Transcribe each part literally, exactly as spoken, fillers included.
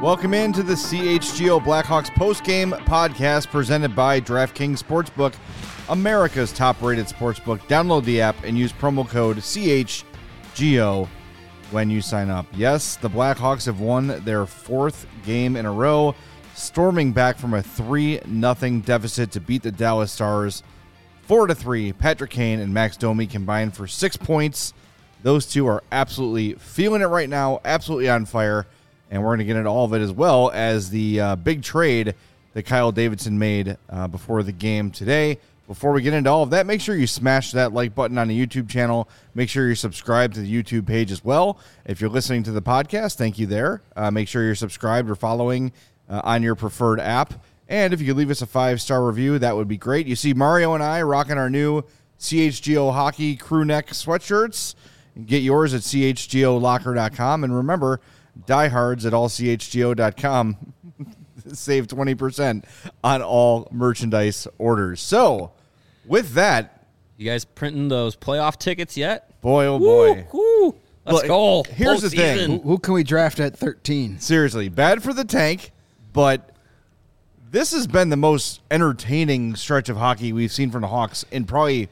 Welcome into the C H G O Blackhawks postgame podcast presented by DraftKings Sportsbook, America's top-rated sportsbook. Download the app and use promo code C H G O when you sign up. Yes, the Blackhawks have won their fourth game in a row, storming back from a three nothing deficit to beat the Dallas Stars four to three. Patrick Kane and Max Domi combined for six points. Those two are absolutely feeling it right now, absolutely on fire, and we're going to get into all of it as well as the uh, big trade that Kyle Davidson made uh, before the game today. Before we get into all of that, make sure you smash that like button on the YouTube channel. Make sure you're subscribed to the YouTube page as well. If you're listening to the podcast, thank you there. Uh, make sure you're subscribed or following uh, on your preferred app. And if you could leave us a five-star review, that would be great. You see Mario and I rocking our new C H G O Hockey crew neck sweatshirts. Get yours at C H G O locker dot com. And remember, diehards at all C H G O dot com. Save twenty percent on all merchandise orders. So, with that, you guys printing those playoff tickets yet? Boy, oh boy. Woo, woo. Let's well, go. Here's the thing. Who, who can we draft at thirteen? Seriously, bad for the tank, but this has been the most entertaining stretch of hockey we've seen from the Hawks in probably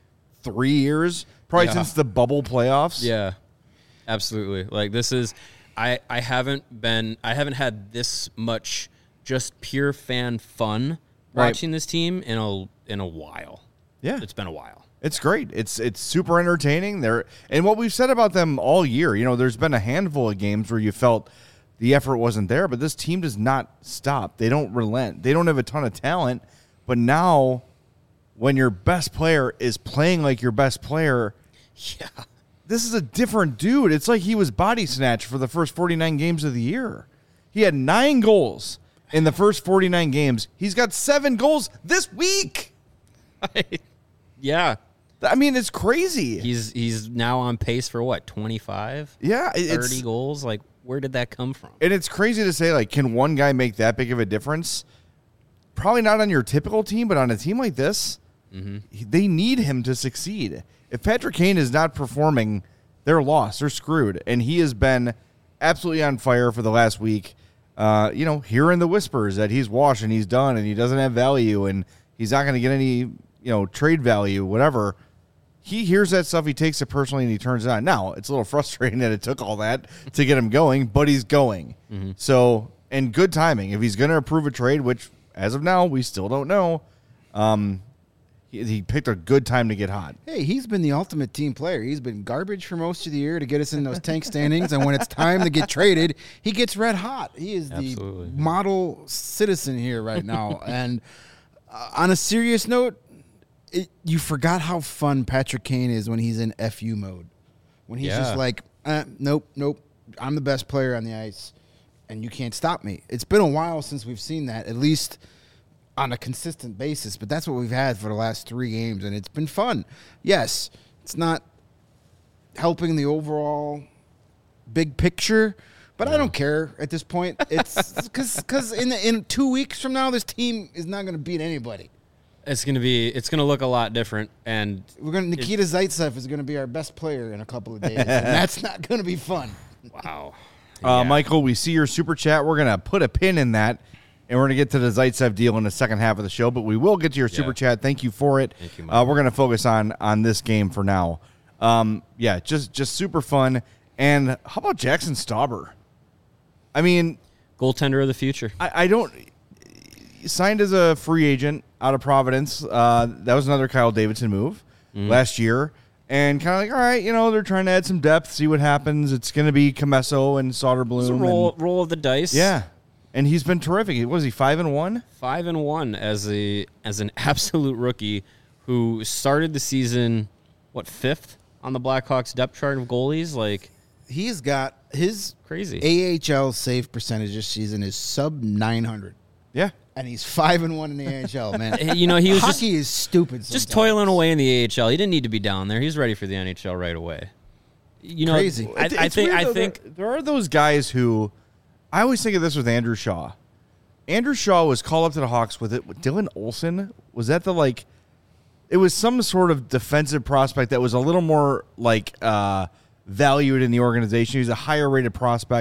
three years, probably Yeah. since the bubble playoffs. Yeah, absolutely. Like this is, I, I haven't been, I haven't had this much just pure fan fun Right. watching this team in a in a while. Yeah. It's been a while. It's great. It's it's super entertaining. They're, and what we've said about them all year, you know, there's been a handful of games where you felt the effort wasn't there, but this team does not stop. They don't relent. They don't have a ton of talent, but now when your best player is playing like your best player, Yeah. this is a different dude. It's like he was body snatched for the first forty-nine games of the year. He had nine goals in the first forty-nine games. He's got seven goals this week. Yeah. I mean, it's crazy. He's he's now on pace for what, twenty-five? Yeah, it- it's thirty goals? Like, where did that come from? And it's crazy to say, like, can one guy make that big of a difference? Probably not on your typical team, but on a team like this, he- they need him to succeed. If Patrick Kane is not performing, they're lost. They're screwed. And he has been absolutely on fire for the last week. Uh, you know, hearing the whispers that he's washed and he's done and he doesn't have value and he's not going to get any, you know, trade value, whatever. He hears that stuff, he takes it personally, and he turns it on. Now, it's a little frustrating that it took all that to get him going, but he's going. Mm-hmm. So, and good timing. If he's going to approve a trade, which, as of now, we still don't know, um, he, he picked a good time to get hot. Hey, he's been the ultimate team player. He's been garbage for most of the year to get us in those tank standings, and when it's time to get traded, he gets red hot. He is Absolutely. the model citizen here right now. And uh, on a serious note, it, you forgot how fun Patrick Kane is when he's in F U mode. When he's Yeah. just like, uh, nope, nope, I'm the best player on the ice, and you can't stop me. It's been a while since we've seen that, at least on a consistent basis, but that's what we've had for the last three games, and it's been fun. Yes, it's not helping the overall big picture, but I don't care at this point. It's because because in in two weeks from now, this team is not going to beat anybody. It's gonna be. It's gonna look a lot different, and We're going to Nikita Zaitsev is going to be our best player in a couple of days, and that's not going to be fun. wow. Uh, Yeah. Michael, we see your super chat. We're going to put a pin in that, and we're going to get to the Zaitsev deal in the second half of the show, but we will get to your super Yeah. chat. Thank you for it. Thank you, uh, Michael. we're going to focus on on this game for now. Um, yeah, just just super fun. And how about Jackson Stauber? I mean, Goaltender of the future. I, I don't signed as a free agent out of Providence. Uh, that was another Kyle Davidson move Mm-hmm. last year. And kind of like, all right, you know, they're trying to add some depth, see what happens. It's going to be Comesso and Soderblom. It's a roll, roll of the dice. Yeah, and he's been terrific. Was he five and one? Five and one as a as an absolute rookie who started the season, what, fifth on the Blackhawks depth chart of goalies? Like, He's got his crazy. A H L save percentage this season is sub nine hundred. Yeah, And he's five and one in the A H L, man. You know, he was just, Hockey is stupid. just sometimes. toiling away in the A H L. He didn't need to be down there. He's ready for the N H L right away. You know, Crazy. I, It's- I it's think. weird, I though. think. there, there are those guys who I always think of this with Andrew Shaw. Andrew Shaw was called up to the Hawks with it. With Dylan Olsen, was that the like? It was some sort of defensive prospect that was a little more like uh, valued in the organization. He was a higher rated prospect,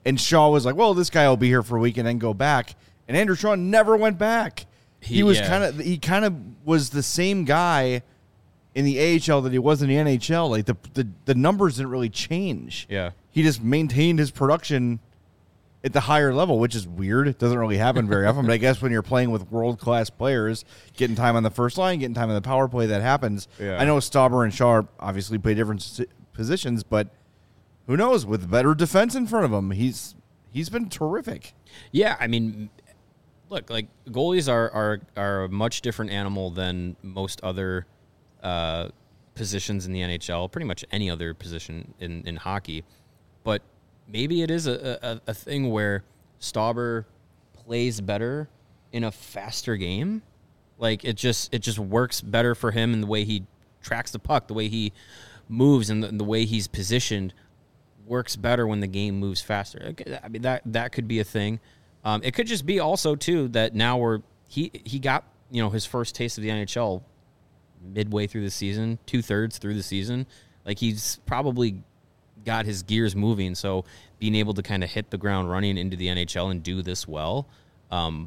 And Shaw was like, well, this guy will be here for a week and then go back. And Andrew Shaw never went back. He, he was yeah. kind of he kind of was the same guy in the A H L that he was in the N H L. Like the the, the numbers didn't really change. Yeah. He just maintained his production at the higher level, which is weird. It doesn't really happen very often. But I guess when you're playing with world-class players, getting time on the first line, getting time on the power play, that happens. Yeah. I know Stauber and Shaw obviously play different positions, but who knows? With better defense in front of him, he's he's been terrific. Yeah, I mean, look, like goalies are are, are a much different animal than most other uh, positions in the N H L, pretty much any other position in, in hockey. But maybe it is a, a, a thing where Stauber plays better in a faster game. Like it just it just works better for him in the way he tracks the puck, the way he moves, and the, the way he's positioned works better when the game moves faster. I mean that that could be a thing. Um, it could just be also too that now we're he he got you know his first taste of the N H L midway through the season, two thirds through the season. Like he's probably got his gears moving. So being able to kind of hit the ground running into the N H L and do this well, um,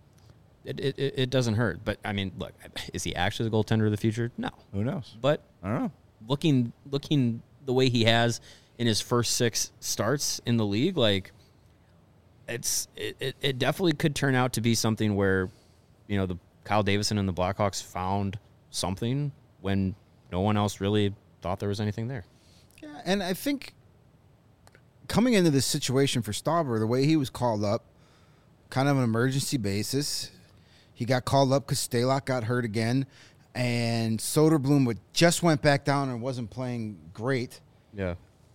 it, it it doesn't hurt. But I mean, look, is he actually the goaltender of the future? No. Who knows? But I don't know. Looking looking the way he has in his first six starts in the league, like it's it, it, it definitely could turn out to be something where, you know, the Kyle Davison and the Blackhawks found something when no one else really thought there was anything there. Yeah, and I think coming into this situation for Stauber, the way he was called up, kind of an emergency basis, he got called up because Stalock got hurt again, and Soderblom would just went back down and wasn't playing great. Yeah.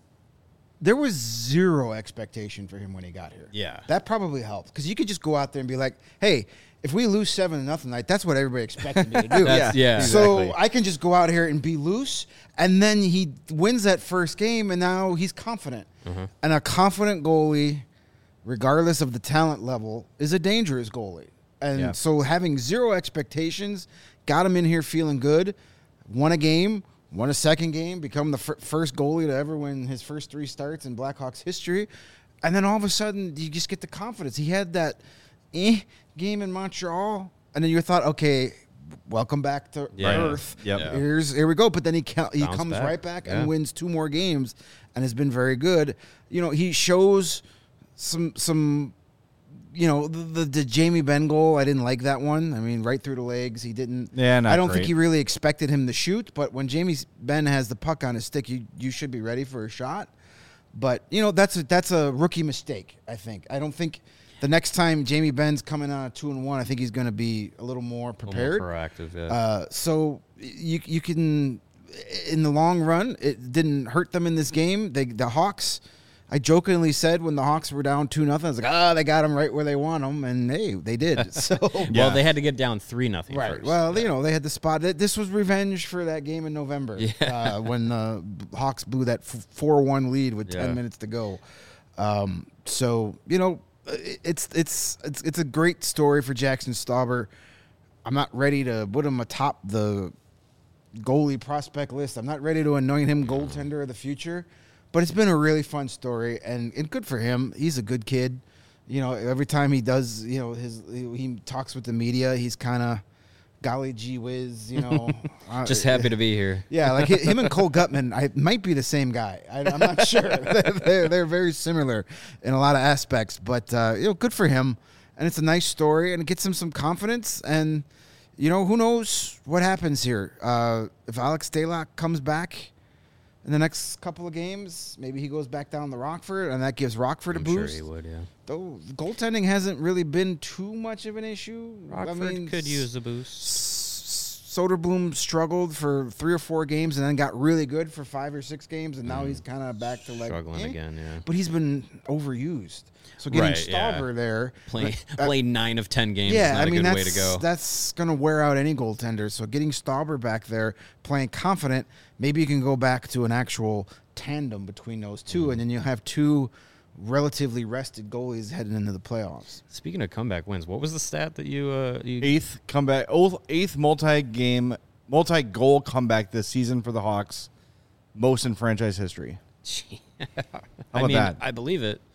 There was zero expectation for him when he got here. Yeah. That probably helped because you could just go out there and be like, hey, if we lose seven to nothing, like that's what everybody expected me to do. That's, yeah. So exactly. I can just go out here and be loose, and then he wins that first game, and now he's confident. Mm-hmm. And a confident goalie, regardless of the talent level, is a dangerous goalie. And Yeah. so having zero expectations, got him in here feeling good, won a game, won a second game, become the f- first goalie to ever win his first three starts in Blackhawks history. And then all of a sudden, you just get the confidence. He had that eh game in Montreal, and then you thought, okay, welcome back to Yeah. Earth. Yep. Yeah. Here's here we go. But then he ca- he Bounce comes back. right back Yeah. and wins two more games, and has been very good. You know, he shows some some. You know, the, the the Jamie Benn goal, I didn't like that one. I mean, right through the legs. He didn't. Yeah, not I don't great. think he really expected him to shoot. But when Jamie Benn has the puck on his stick, you you should be ready for a shot. But you know, that's a, that's a rookie mistake. I think. I don't think the next time Jamie Benn's coming on a two and one, I think he's going to be a little more A little prepared. more proactive, yeah. Uh, so you you can, in the long run, it didn't hurt them in this game. They the Hawks. I jokingly said when the Hawks were down two nothing, I was like, ah, they got them right where they want them, and hey, they did. So Well, Yeah. they had to get down three nothing right. first. Well, Yeah. you know, they had the spot. This was revenge for that game in November Yeah. uh, when the Hawks blew that four one lead with Yeah. ten minutes to go. Um, so you know, it's it's it's it's a great story for Jackson Stauber. I'm not ready to put him atop the goalie prospect list. I'm not ready to anoint him goaltender of the future. But it's been a really fun story, and, and good for him. He's a good kid. You know, every time he does, you know, his he talks with the media, he's kind of golly gee whiz, you know. uh, Just happy to be here. Yeah, like hi- him and Cole Gutman, I might be the same guy. I, I'm not sure. they're, they're very similar in a lot of aspects, but uh, you know, good for him. And it's a nice story, and it gets him some confidence. And you know, who knows what happens here? Uh, if Alex Stalock comes back in the next couple of games, maybe he goes back down to Rockford, and that gives Rockford I'm a sure boost. he would, yeah. Though goaltending hasn't really been too much of an issue. Rockford I mean, could use a boost. S- Soderblom struggled for three or four games and then got really good for five or six games, and now he's kind of back to like Struggling eh. again, yeah. But he's been overused. So getting Right, yeah. Stauber there, Play, uh, play nine of ten games yeah, is not I mean a good that's way to go. that's gonna wear out any goaltender. So getting Stauber back there, playing confident, maybe you can go back to an actual tandem between those two, Mm-hmm. and then you'll have two relatively rested goalies heading into the playoffs. Speaking of comeback wins, what was the stat that you uh you Eighth comeback, oh, eighth multi-game, multi-goal comeback this season for the Hawks, most in franchise history. Gee. How I about mean, that? I believe it.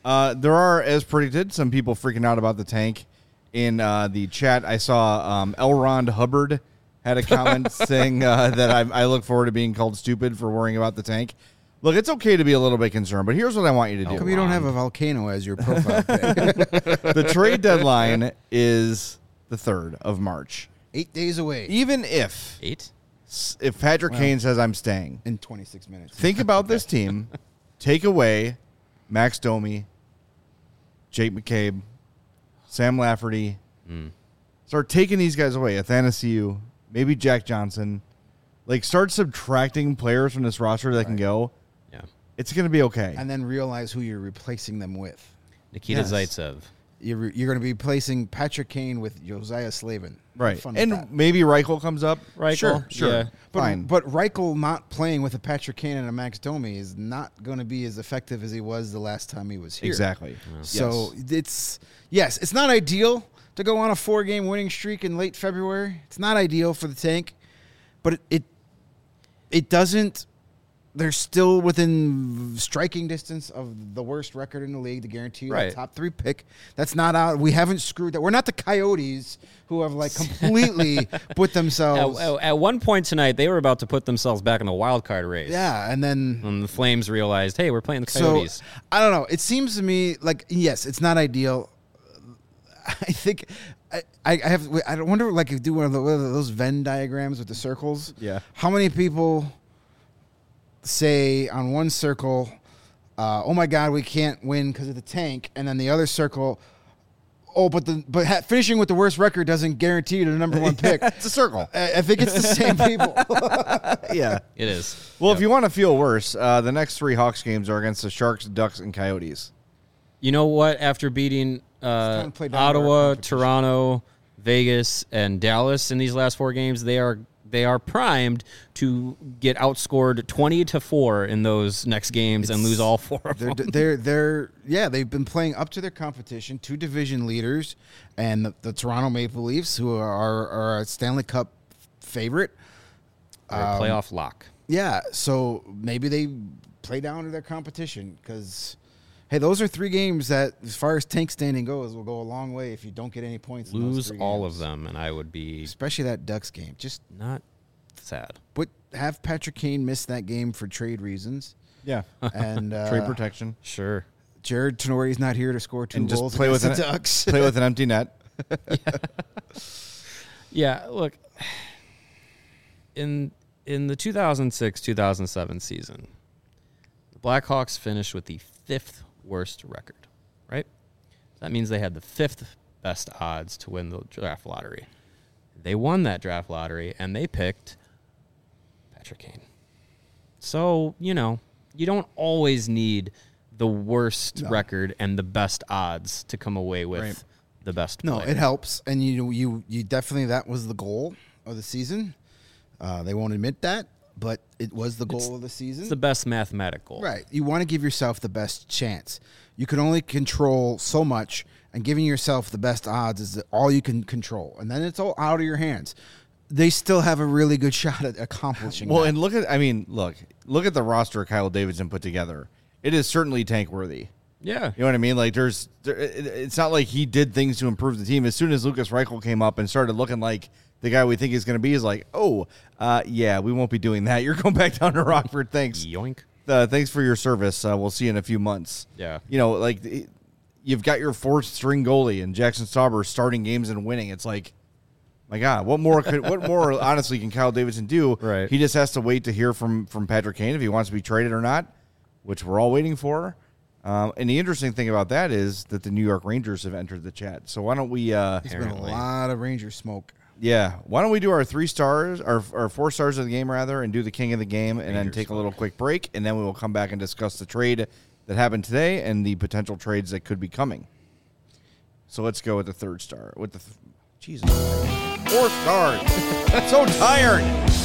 Uh, there are, as predicted, some people freaking out about the tank. In uh, the chat, I saw um, L. Ron Hubbard had a comment saying uh, that I, I look forward to being called stupid for worrying about the tank. Look, it's okay to be a little bit concerned, but here's what I want you to do. How come you don't have a volcano as your profile pic? The trade deadline is the third of March. Eight days away. Even if Eight? if Patrick Well, Kane says I'm staying, In twenty-six minutes. think about this team. Take away Max Domi, Jake McCabe, Sam Lafferty. Mm. Start taking these guys away. Athanasiu, maybe Jack Johnson. Like, start subtracting players from this roster that Right. can go. Yeah. It's going to be okay. And then realize who you're replacing them with. Nikita Yes. Zaitsev. You're, you're going to be replacing Patrick Kane with Josiah Slavin. Right. Have fun with And that. maybe Reichel comes up. Reichel, Sure, sure. yeah. But, Fine. but Reichel not playing with a Patrick Kane and a Max Domi is not going to be as effective as he was the last time he was here. Exactly. So Yes. it's, yes, it's not ideal to go on a four-game winning streak in late February. It's not ideal for the tank, but it it, it doesn't. They're still within striking distance of the worst record in the league to guarantee you Right. a top three pick. That's not out. We haven't screwed that. We're not the Coyotes who have like completely put themselves. At, at one point tonight, they were about to put themselves back in the wild card race. Yeah, and then And the Flames realized, hey, we're playing the so Coyotes. I don't know. It seems to me like yes, it's not ideal. I think I, I have. I wonder like if you do one of, the, one of those Venn diagrams with the circles. Yeah. How many people say on one circle, uh, "Oh my God, we can't win because of the tank," and then the other circle, "Oh, but the but ha- finishing with the worst record doesn't guarantee you the number one pick." It's a circle. I, I think it's the same people. Yeah. It is. Well, Yep. if you want to feel worse, uh, the next three Hawks games are against the Sharks, Ducks, and Coyotes. You know what? After beating uh, time to play down to our Ottawa, competition. Toronto, Vegas, and Dallas in these last four games, they are they are primed to get outscored twenty to four in those next games and It's- lose all four of They're, them. they're, they're, yeah, they've been playing up to their competition, two division leaders, and the, the Toronto Maple Leafs, who are, are a Stanley Cup favorite. They're a Um, playoff lock. Yeah, so maybe they play down to their competition because, hey, those are three games that, as far as tank standing goes, will go a long way if you don't get any points. in those Lose three all games. of them, and I would be especially that Ducks game. Just not sad. put have Patrick Kane miss that game for trade reasons, Yeah. and uh, Trade protection. Sure. Jared Tenori's not here to score two And just goals play with against an- the Ducks. Play with an empty net. Yeah, look, in in the two thousand six two thousand seven season, the Blackhawks finished with the fifth worst record, right? That means they had the fifth best odds to win the draft lottery. They won that draft lottery, and they picked Patrick Kane. So, you know, you don't always need the worst No. record and the best odds to come away with Right. the best No, player. it helps, and you you you definitely that was the goal of the season. Uh, they won't admit that, but it was the goal It's- of the season. It's the best mathematical. Right. You want to give yourself the best chance. You can only control so much, and giving yourself the best odds is all you can control, and then it's all out of your hands. They still have a really good shot at accomplishing. Well, that. and look at, I mean, look, look at the roster Kyle Davidson put together. It is certainly tank worthy. Yeah. You know what I mean? Like, there's, there, it, it's not like he did things to improve the team. As soon as Lucas Reichel came up and started looking like the guy we think he's going to be, is like, oh, uh, yeah, we won't be doing that. You're going back down to Rockford. Thanks. Yoink. Uh, thanks for your service. Uh, we'll see you in a few months. Yeah. You know, like, it, you've got your fourth string goalie and Jackson Stauber starting games and winning. It's like, my God, what more could, what more honestly can Kyle Davidson do? Right. He just has to wait to hear from from Patrick Kane if he wants to be traded or not, which we're all waiting for. Um, and the interesting thing about that is that the New York Rangers have entered the chat. So why don't we? Uh, There's been a apparently. lot of Ranger smoke. yeah, why don't we do our three stars, our our four stars of the game rather, and do the king of the game, and then Rangers take a smoke. little quick break, and then we will come back and discuss the trade that happened today and the potential trades that could be coming. So let's go with the third star. With the th- Jesus, four stars. So tired.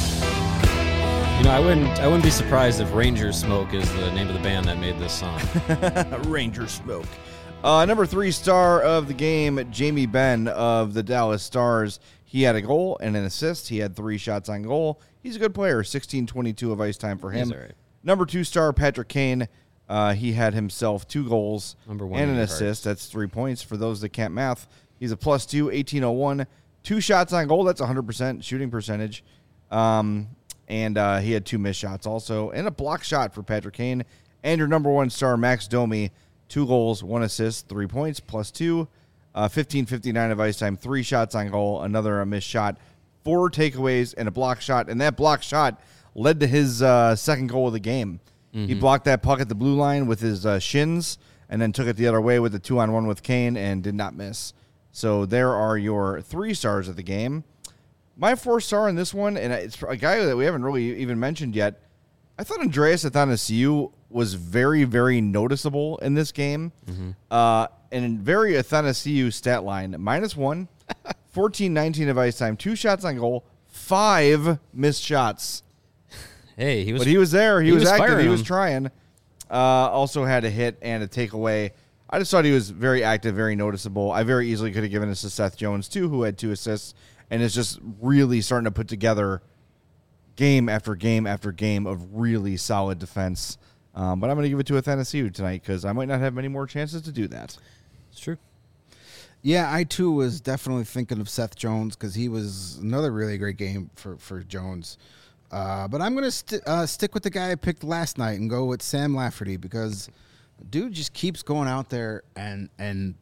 You know, I wouldn't I wouldn't be surprised if Ranger Smoke is the name of the band that made this song. Ranger smoke. Uh, number three star of the game, Jamie Benn of the Dallas Stars. He had a goal and an assist. He had three shots on goal. He's a good player. sixteen twenty-two of ice time for him. He's all right. Number two star, Patrick Kane. Uh, he had himself two goals Number one and in an your assist. hearts. That's three points for those that can't math. He's a plus two, eighteen oh one. Two shots on goal. That's one hundred percent shooting percentage. Um, and uh, he had two missed shots also. And a block shot for Patrick Kane. And your number one star, Max Domi, two goals, one assist, three points, plus two. Uh, fifteen fifty-nine of ice time, three shots on goal, another a missed shot, four takeaways, and a block shot. And that block shot led to his uh, second goal of the game. Mm-hmm. He blocked that puck at the blue line with his uh, shins and then took it the other way with the two-on-one with Kane and did not miss. So there are your three stars of the game. My four star in this one, and it's a guy that we haven't really even mentioned yet, I thought Andreas Athanasiou was very, very noticeable in this game. Mm-hmm. Uh, and very Athanasiou stat line, minus one, fourteen nineteen of ice time, two shots on goal, five missed shots. Hey, he was. But he was there. He, he was, was active. He him. was trying. Uh, also had a hit and a takeaway. I just thought he was very active, very noticeable. I very easily could have given this to Seth Jones, too, who had two assists, and is just really starting to put together game after game after game of really solid defense. Um, but I'm going to give it to Athanasiou tonight because I might not have many more chances to do that. It's true. Yeah, I too was definitely thinking of Seth Jones because he was another really great game for, for Jones. Uh, but I'm going to st- uh, stick with the guy I picked last night and go with Sam Lafferty because dude just keeps going out there and and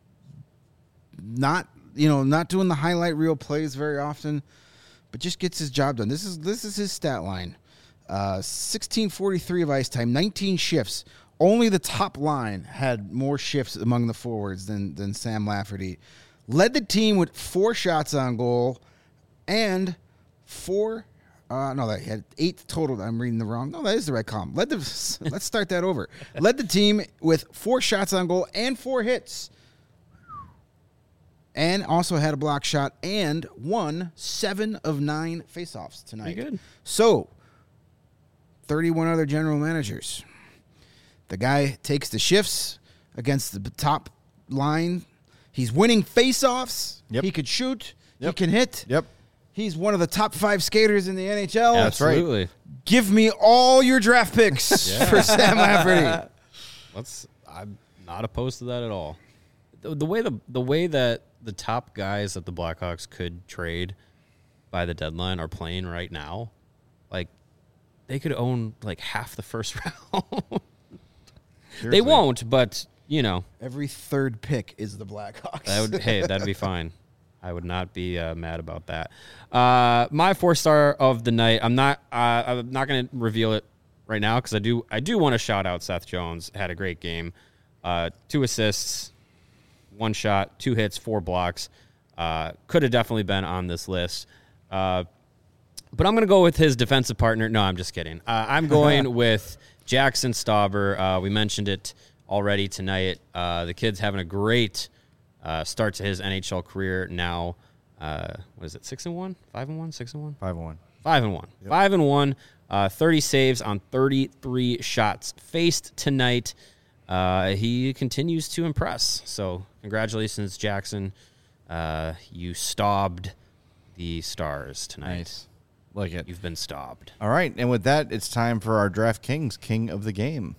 not you know not doing the highlight reel plays very often, but just gets his job done. This is this is his stat line: uh, sixteen forty-three of ice time, nineteen shifts. Only the top line had more shifts among the forwards than than Sam Lafferty. Led the team with four shots on goal and four. Uh, no, that had eight total. I'm reading the wrong. No, that is the right column. Led the. Let's start that over. Led the team with four shots on goal and four hits, and also had a block shot and won seven of nine faceoffs tonight. Pretty good. So, thirty-one other general managers. The guy takes the shifts against the top line. He's winning faceoffs. Yep. He could shoot. Yep. He can hit. Yep. He's one of the top five skaters in the N H L. That's right. Absolutely. Give me all your draft picks Yeah. for Sam Lafferty. Let's. I'm not opposed to that at all. The, the way the the way that the top guys that the Blackhawks could trade by the deadline are playing right now, like they could own like half the first round. They Seriously. won't, but you know, Every third pick is the Blackhawks. that would hey, that'd be fine. I would not be uh, mad about that. Uh, my four star of the night. I'm not. Uh, I'm not going to reveal it right now because I do. I do want to shout out Seth Jones. Had a great game. Uh, two assists, one shot, two hits, four blocks. Uh, could have definitely been on this list. Uh, but I'm going to go with his defensive partner. No, I'm just kidding. Uh, I'm going with Jackson Stauber. Uh, we mentioned it already tonight. Uh, the kid's having a great uh, start to his N H L career now. Uh, what is it? Six and one, five and one, six and one, Five and one. five and one, Yep. five and one. Uh, thirty saves on thirty-three shots faced tonight. Uh, he continues to impress. So congratulations, Jackson. Uh, you stobbed the Stars tonight. Nice. Like it. You've been stobbed. All right, and with that, it's time for our DraftKings King of the Game.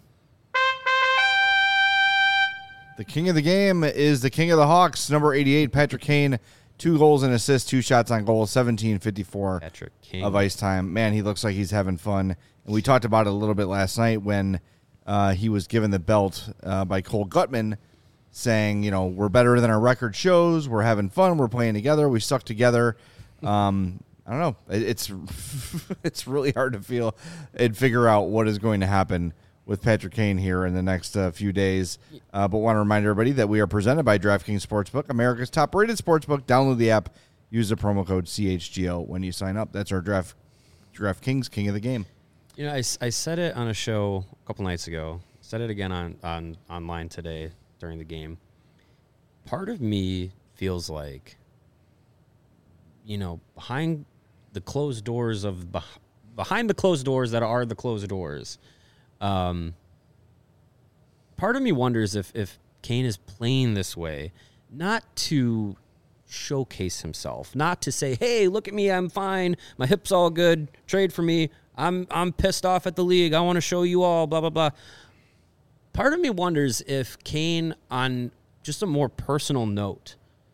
The King of the Game is the King of the Hawks, number eighty-eight, Patrick Kane. Two goals and assists, two shots on goal, seventeen fifty-four Patrick King. of ice time. Man, he looks like he's having fun. And we talked about it a little bit last night when uh, he was given the belt uh, by Cole Gutman, saying, you know, we're better than our record shows. We're having fun. We're playing together. We stuck together. Um, I don't know. It, it's it's really hard to feel and figure out what is going to happen with Patrick Kane here in the next uh, few days. Uh, but want to remind everybody that we are presented by DraftKings Sportsbook, America's top-rated sportsbook. Download the app. Use the promo code C H G O when you sign up. That's our Draft DraftKings King of the Game. You know, I, I said it on a show a couple nights ago. Said it again on, on online today during the game. Part of me feels like, you know, behind the closed doors of beh- behind the closed doors that are the closed doors. Um, part of me wonders if, if Kane is playing this way, not to showcase himself, not to say, hey, look at me, I'm fine, my hip's all good, trade for me, I'm I'm pissed off at the league, I want to show you all, blah, blah, blah. part of me wonders if Kane, on just a more personal note,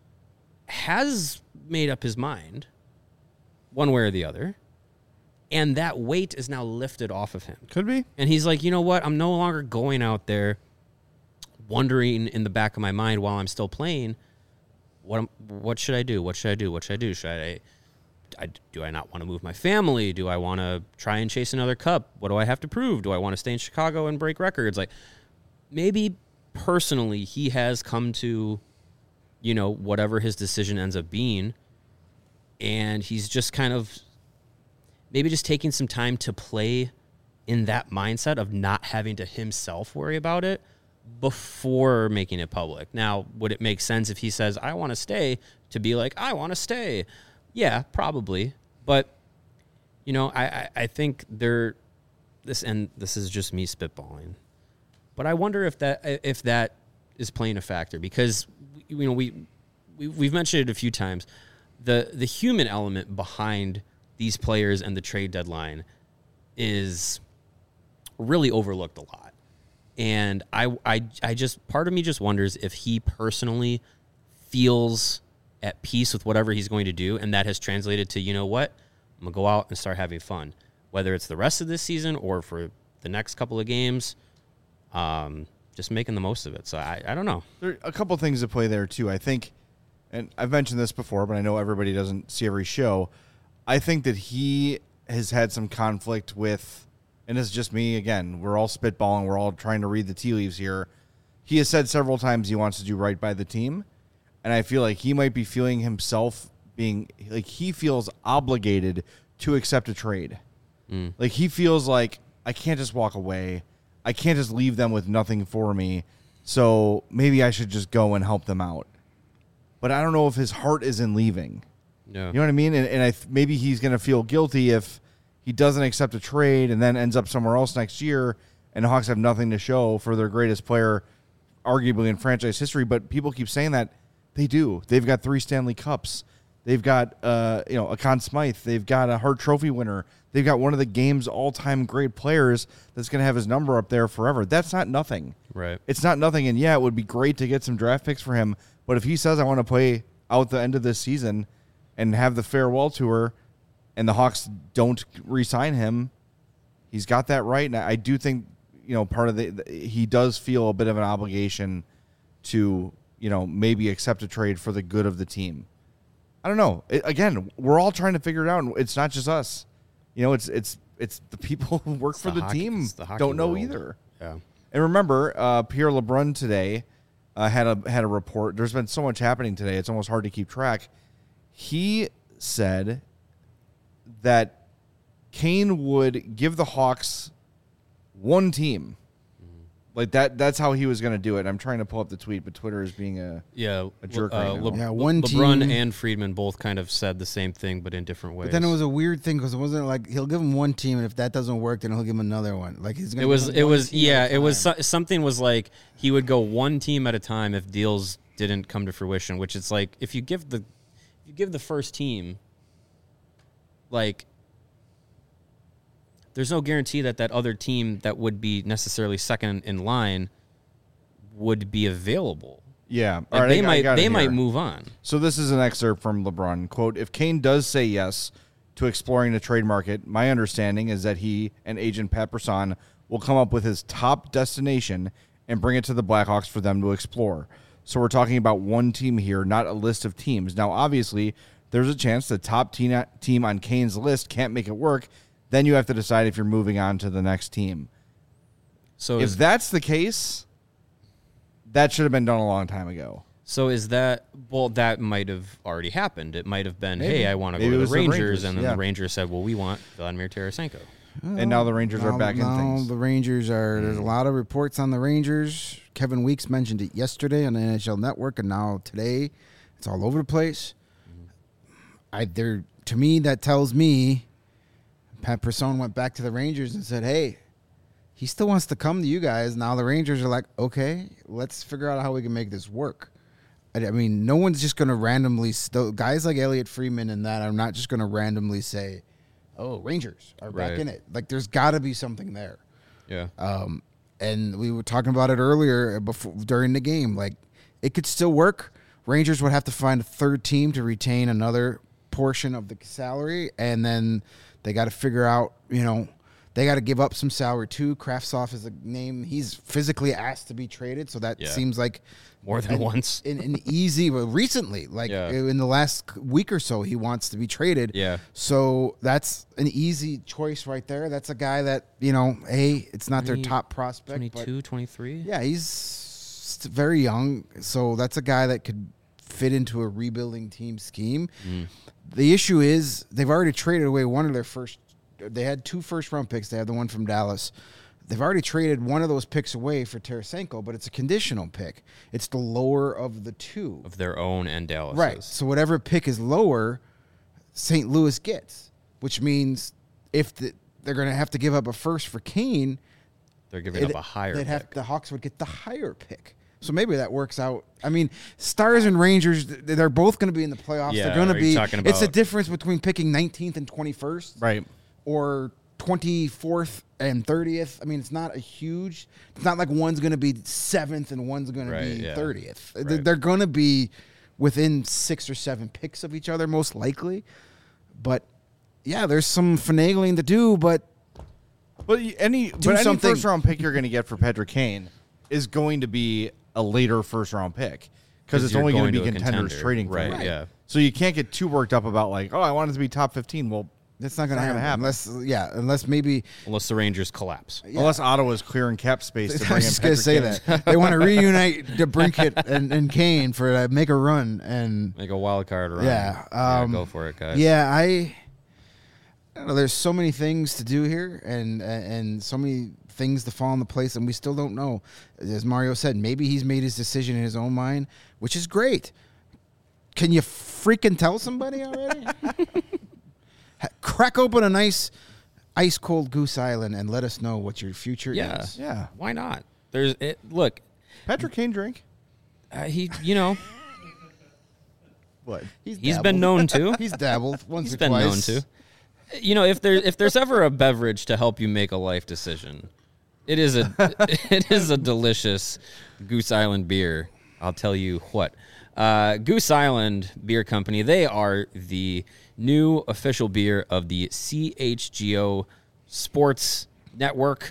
has made up his mind one way or the other, and that weight is now lifted off of him. Could be. And he's like, you know what? I'm no longer going out there wondering in the back of my mind while I'm still playing, what am- what should I do? What should I do? What should I do? Should I, I do I not want to move my family? Do I want to try and chase another cup? What do I have to prove? Do I want to stay in Chicago and break records? Like, maybe personally he has come to, you know, whatever his decision ends up being, and he's just kind of maybe just taking some time to play in that mindset of not having to himself worry about it before making it public. Now, would it make sense if he says, I want to stay, to be like, I want to stay? Yeah, probably. But, you know, I, I, I think there, this, and this is just me spitballing, but I wonder if that, if that is playing a factor, because, you know, we, we we've mentioned it a few times. The, the human element behind these players and the trade deadline is really overlooked a lot. And I, I, I just, part of me just wonders if he personally feels at peace with whatever he's going to do, and that has translated to, you know what, I'm going to go out and start having fun. Whether it's the rest of this season or for the next couple of games, um, just making the most of it. So I, I don't know. There are a couple things to play there, too. I think, and I've mentioned this before, but I know everybody doesn't see every show. I think that he has had some conflict with, and it's just me, again, we're all spitballing, we're all trying to read the tea leaves here. He has said several times he wants to do right by the team, and I feel like he might be feeling himself being, like he feels obligated to accept a trade. Mm. Like he feels like, I can't just walk away. I can't just leave them with nothing for me, so maybe I should just go and help them out. But I don't know if his heart is in leaving. No. You know what I mean? And, and I th- maybe he's going to feel guilty if he doesn't accept a trade and then ends up somewhere else next year, and the Hawks have nothing to show for their greatest player, arguably in franchise history. But people keep saying that. They do. They've got three Stanley Cups. They've got uh, you know, a Conn Smythe. They've got a Hart Trophy winner. They've got one of the game's all-time great players that's going to have his number up there forever. That's not nothing. Right. It's not nothing. And, yeah, it would be great to get some draft picks for him. But if he says, I want to play out the end of this season and have the farewell tour, and the Hawks don't re-sign him, he's got that right. And I do think, you know, part of the, he does feel a bit of an obligation to, you know, maybe accept a trade for the good of the team. I don't know. It, again, we're all trying to figure it out. And it's not just us. You know, it's it's it's the people who work It's for the the, hockey- team it's the hockey don't know world. either. Yeah. And remember, uh, Pierre LeBrun today uh, had a had a report. There's been so much happening today; it's almost hard to keep track. He said that Kane would give the Hawks one team. Like that that's how he was going to do it. I'm trying to pull up the tweet, but Twitter is being a Yeah, a jerk uh, right now. Le- Yeah, Le- one LeBron team- and Friedman both kind of said the same thing, but in different ways. But then it was a weird thing because it wasn't like he'll give him one team, and if that doesn't work, then he'll give him another one. Like he's gonna. It was. give him It one was. team Yeah. at a It was. time. So, something was like he would go one team at a time if deals didn't come to fruition. Which it's like if you give the, if you give the first team, like, there's no guarantee that that other team that would be necessarily second in line would be available. Yeah. Like All right, they I- I might. got it They here. might move on. So this is an excerpt from LeBron. Quote, if Kane does say yes to exploring the trade market, my understanding is that he and agent Pat Brisson will come up with his top destination and bring it to the Blackhawks for them to explore. So we're talking about one team here, not a list of teams. Now, obviously, there's a chance the top team team on Kane's list can't make it work. Then you have to decide if you're moving on to the next team. So If is, that's the case, that should have been done a long time ago. so is that well? That might have already happened. It might have been, Maybe. hey, I want to Maybe go it to was the the Rangers, Rangers, and then yeah. the Rangers said, well, we want Vladimir Tarasenko. And now the Rangers are Now- back in now things. The Rangers are. There's a Mm. lot of reports on the Rangers. Kevin Weeks mentioned it yesterday on the N H L Network, and now today, it's all over the place. I there to me that tells me Pat Brisson went back to the Rangers and said, "Hey, he still wants to come to you guys." Now the Rangers are like, "Okay, let's figure out how we can make this work." I I mean, no one's just going to randomly st- guys like Elliot Friedman and that are not just going to randomly say, "Oh, Rangers are back Right. in it." Like, there's got to be something there. Yeah. Um, And we were talking about it earlier before during the game. Like, it could still work. Rangers would have to find a third team to retain another portion of the salary, and then they got to figure out, you know, they got to give up some salary too. Kravtsov is a name. He's physically asked to be traded, so that Yeah. seems like More than an, once. An, an easy, well, recently, like Yeah. in the last week or so, he wants to be traded. Yeah. So that's an easy choice right there. That's a guy that, you know, hey, it's not their twenty, top prospect. twenty-two, twenty-three But yeah, he's st- very young. So that's a guy that could fit into a rebuilding team scheme. Mm. The issue is they've already traded away one of their first. They had two first round picks. They had the one from Dallas. They've already traded one of those picks away for Tarasenko, but it's a conditional pick. It's the lower of the two. of their own and Dallas. Right. So whatever pick is lower, Saint Louis gets, which means if the, they're going to have to give up a first for Kane, They're giving it- up a higher they'd have, pick. the Hawks would get the higher pick. So maybe that works out. I mean, Stars and Rangers, they're both going to be in the playoffs. Yeah, they're going to are you be. talking It's the about- difference between picking nineteenth and twenty-first, Right. or twenty-fourth and thirtieth. I mean, it's not a huge. It's not like one's going to be seventh and one's going Right, to be yeah. thirtieth. They- Right. They're going to be within six or seven picks of each other, most likely. But yeah, there's some finagling to do. But But y- any but any something. first round pick you're going to get for Patrick Kane is going to be a later first round pick because 'Cause it's you're only going going to be to a contenders contender. trading for Right, him. yeah. So you can't get too worked up about like, oh, I want it to be top fifteen. Well, that's not going It's to not happen. gonna happen. Unless, yeah, unless maybe. Unless the Rangers collapse. unless Ottawa's clearing cap space to I bring in was just gonna Patrick say Kane. that they want to reunite DeBrincat and, and Kane for uh, make a run, and Make a wild card run. Yeah, um, go for it, guys. yeah, I, I don't know. There's so many things to do here, and and so many things to fall into place, and we still don't know. As Mario said, maybe he's made his decision in his own mind, which is great. Can you freaking tell somebody already? Ha- Crack open a nice ice cold Goose Island and let us know what your future Yeah. is. Yeah. Why not? There's it. Look, Patrick Kane drink. uh, he. You know, What? He's, he's dabbled. been known to. He's dabbled once He's or been twice. known to. You know, if there if there's ever a beverage to help you make a life decision, it is a it is a delicious Goose Island beer. I'll tell you what. Uh, Goose Island Beer Company, they are the new official beer of the C H G O Sports Network.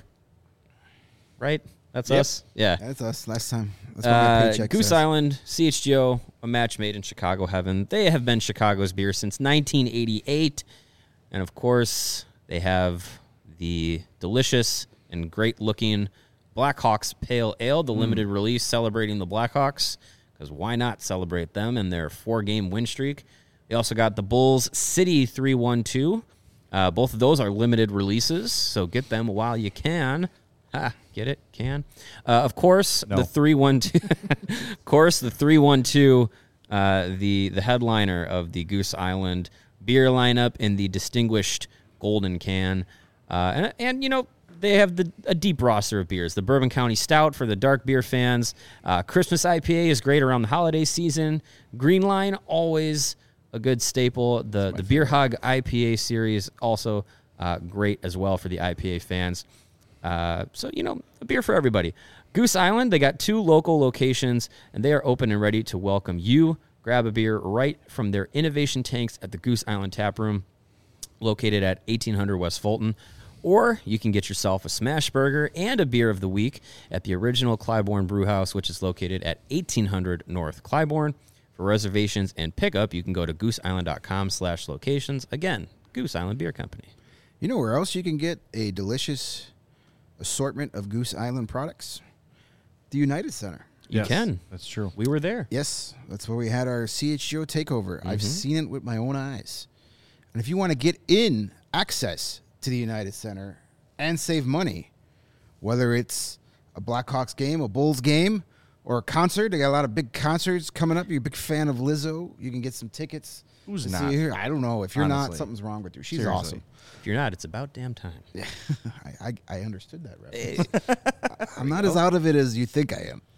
Right? That's Yep. us? Yeah. That's us last time. That's what my Uh, paycheck Goose says. Island, C H G O, a match made in Chicago heaven. They have been Chicago's beer since nineteen eighty-eight. And of course, they have the delicious and great looking Blackhawks Pale Ale, the limited release celebrating the Blackhawks, because why not celebrate them and their four game win streak? They also got the Bulls City three one two. Uh, both of those are limited releases, so get them while you can. Ha, get it? Can. Uh, of course, No. the three one two. Of course, the three one two, uh, the the headliner of the Goose Island beer lineup in the distinguished golden can, uh, and and you know they have the a deep roster of beers. The Bourbon County Stout for the dark beer fans. Uh, Christmas I P A is great around the holiday season. Green Line always a good staple. The the Beer Hog I P A series also uh, great as well for the I P A fans. Uh, so, you know, a beer for everybody. Goose Island, they got two local locations, and they are open and ready to welcome you. Grab a beer right from their innovation tanks at the Goose Island Tap Room, located at eighteen hundred West Fulton. Or you can get yourself a smash burger and a beer of the week at the original Clybourne Brewhouse, which is located at eighteen hundred North Clybourne. For reservations and pickup, you can go to gooseisland.com slash locations. Again, Goose Island Beer Company. You know where else you can get a delicious assortment of Goose Island products? The United Center. You Yes, can. That's true. We were there. Yes, that's where we had our C H G O takeover. I've Mm-hmm. seen it with my own eyes. And if you want to get in access to the United Center and save money, whether it's a Blackhawks game, a Bulls game, or a concert, they got a lot of big concerts coming up. You're a big fan of Lizzo, you can get some tickets. Who's to see not? her. I don't know. If you're not, Honestly. something's wrong with you. She's Seriously. awesome. If you're not, it's about damn time. I, I, I understood that reference. I'm not as out of it as you think I am.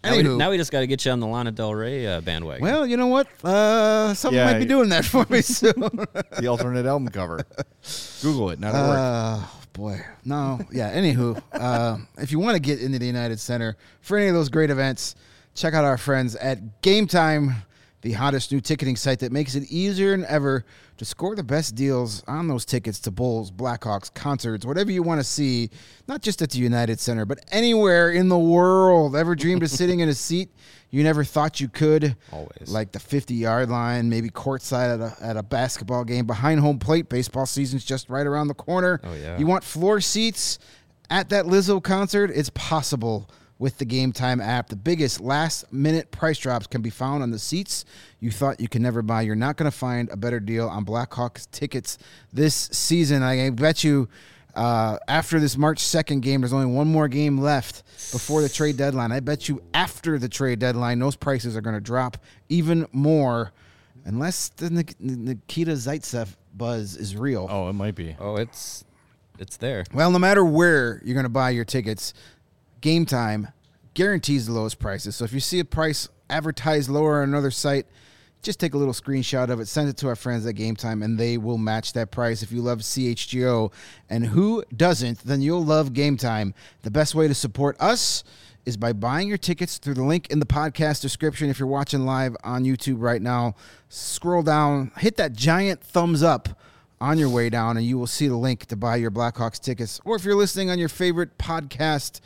Now we, Anywho. now we just got to get you on the Lana Del Rey uh, bandwagon. Well, you know what? Uh, someone Yeah, might be doing that for me soon. The alternate album cover. Google it. Not at work. Uh, boy. No. Yeah. Anywho, uh, if you want to get into the United Center for any of those great events, check out our friends at Game Time, the hottest new ticketing site that makes it easier than ever to score the best deals on those tickets to Bulls, Blackhawks, concerts, whatever you want to see, not just at the United Center, but anywhere in the world. Ever dreamed of sitting in a seat you never thought you could? Always. Like the fifty-yard line, maybe courtside at a, at a basketball game, behind home plate. Baseball season's just right around the corner. Oh, yeah. You want floor seats at that Lizzo concert? It's possible with the Game Time app. The biggest last-minute price drops can be found on the seats you thought you could never buy. You're not going to find a better deal on Blackhawks tickets this season. I bet you uh, after this March second game, there's only one more game left before the trade deadline. I bet you after the trade deadline, those prices are going to drop even more unless the Nik- Nikita Zaitsev buzz is real. Oh, it might be. Oh, it's it's there. Well, no matter where you're going to buy your tickets, Game Time guarantees the lowest prices. So if you see a price advertised lower on another site, just take a little screenshot of it, send it to our friends at Game Time, and they will match that price. If you love C H G O, and who doesn't, then you'll love Game Time. The best way to support us is by buying your tickets through the link in the podcast description. If you're watching live on YouTube right now, scroll down, hit that giant thumbs up on your way down, and you will see the link to buy your Blackhawks tickets. Or if you're listening on your favorite podcast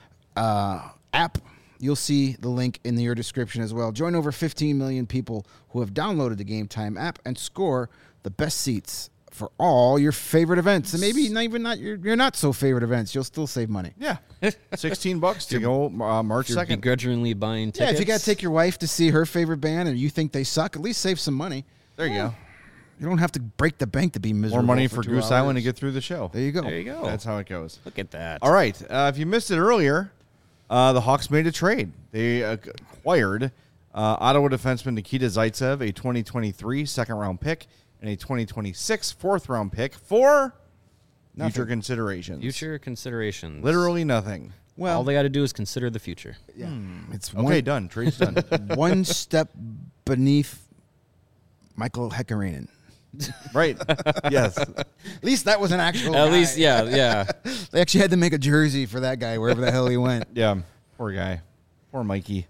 uh, app, you'll see the link in your description as well. Join over fifteen million people who have downloaded the Game Time app and score the best seats for all your favorite events. And maybe not even not your, your not so favorite events. You'll still save money. Yeah. sixteen bucks to go uh, March You're second. begrudgingly buying tickets. Yeah, if you got to take your wife to see her favorite band and you think they suck, at least save some money. There you go. You don't have to break the bank to be miserable. More money for for two Goose hours. Island to get through the show. There you go. There you go. That's how it goes. Look at that. All right. Uh, if you missed it earlier, uh, the Hawks made a trade. They uh, acquired uh, Ottawa defenseman Nikita Zaitsev, a twenty twenty-three second-round pick, and a twenty twenty-six fourth-round pick for Nothing. future considerations. Future considerations. Literally nothing. Well, All they got to do is consider the future. yeah, it's Okay, one, done. Trade's done. one step beneath Michael Hekarainen. Right. Yes. At least that was an actual At guy. least, yeah, yeah. They actually had to make a jersey for that guy wherever the hell he went. Yeah. Poor guy. Poor Mikey.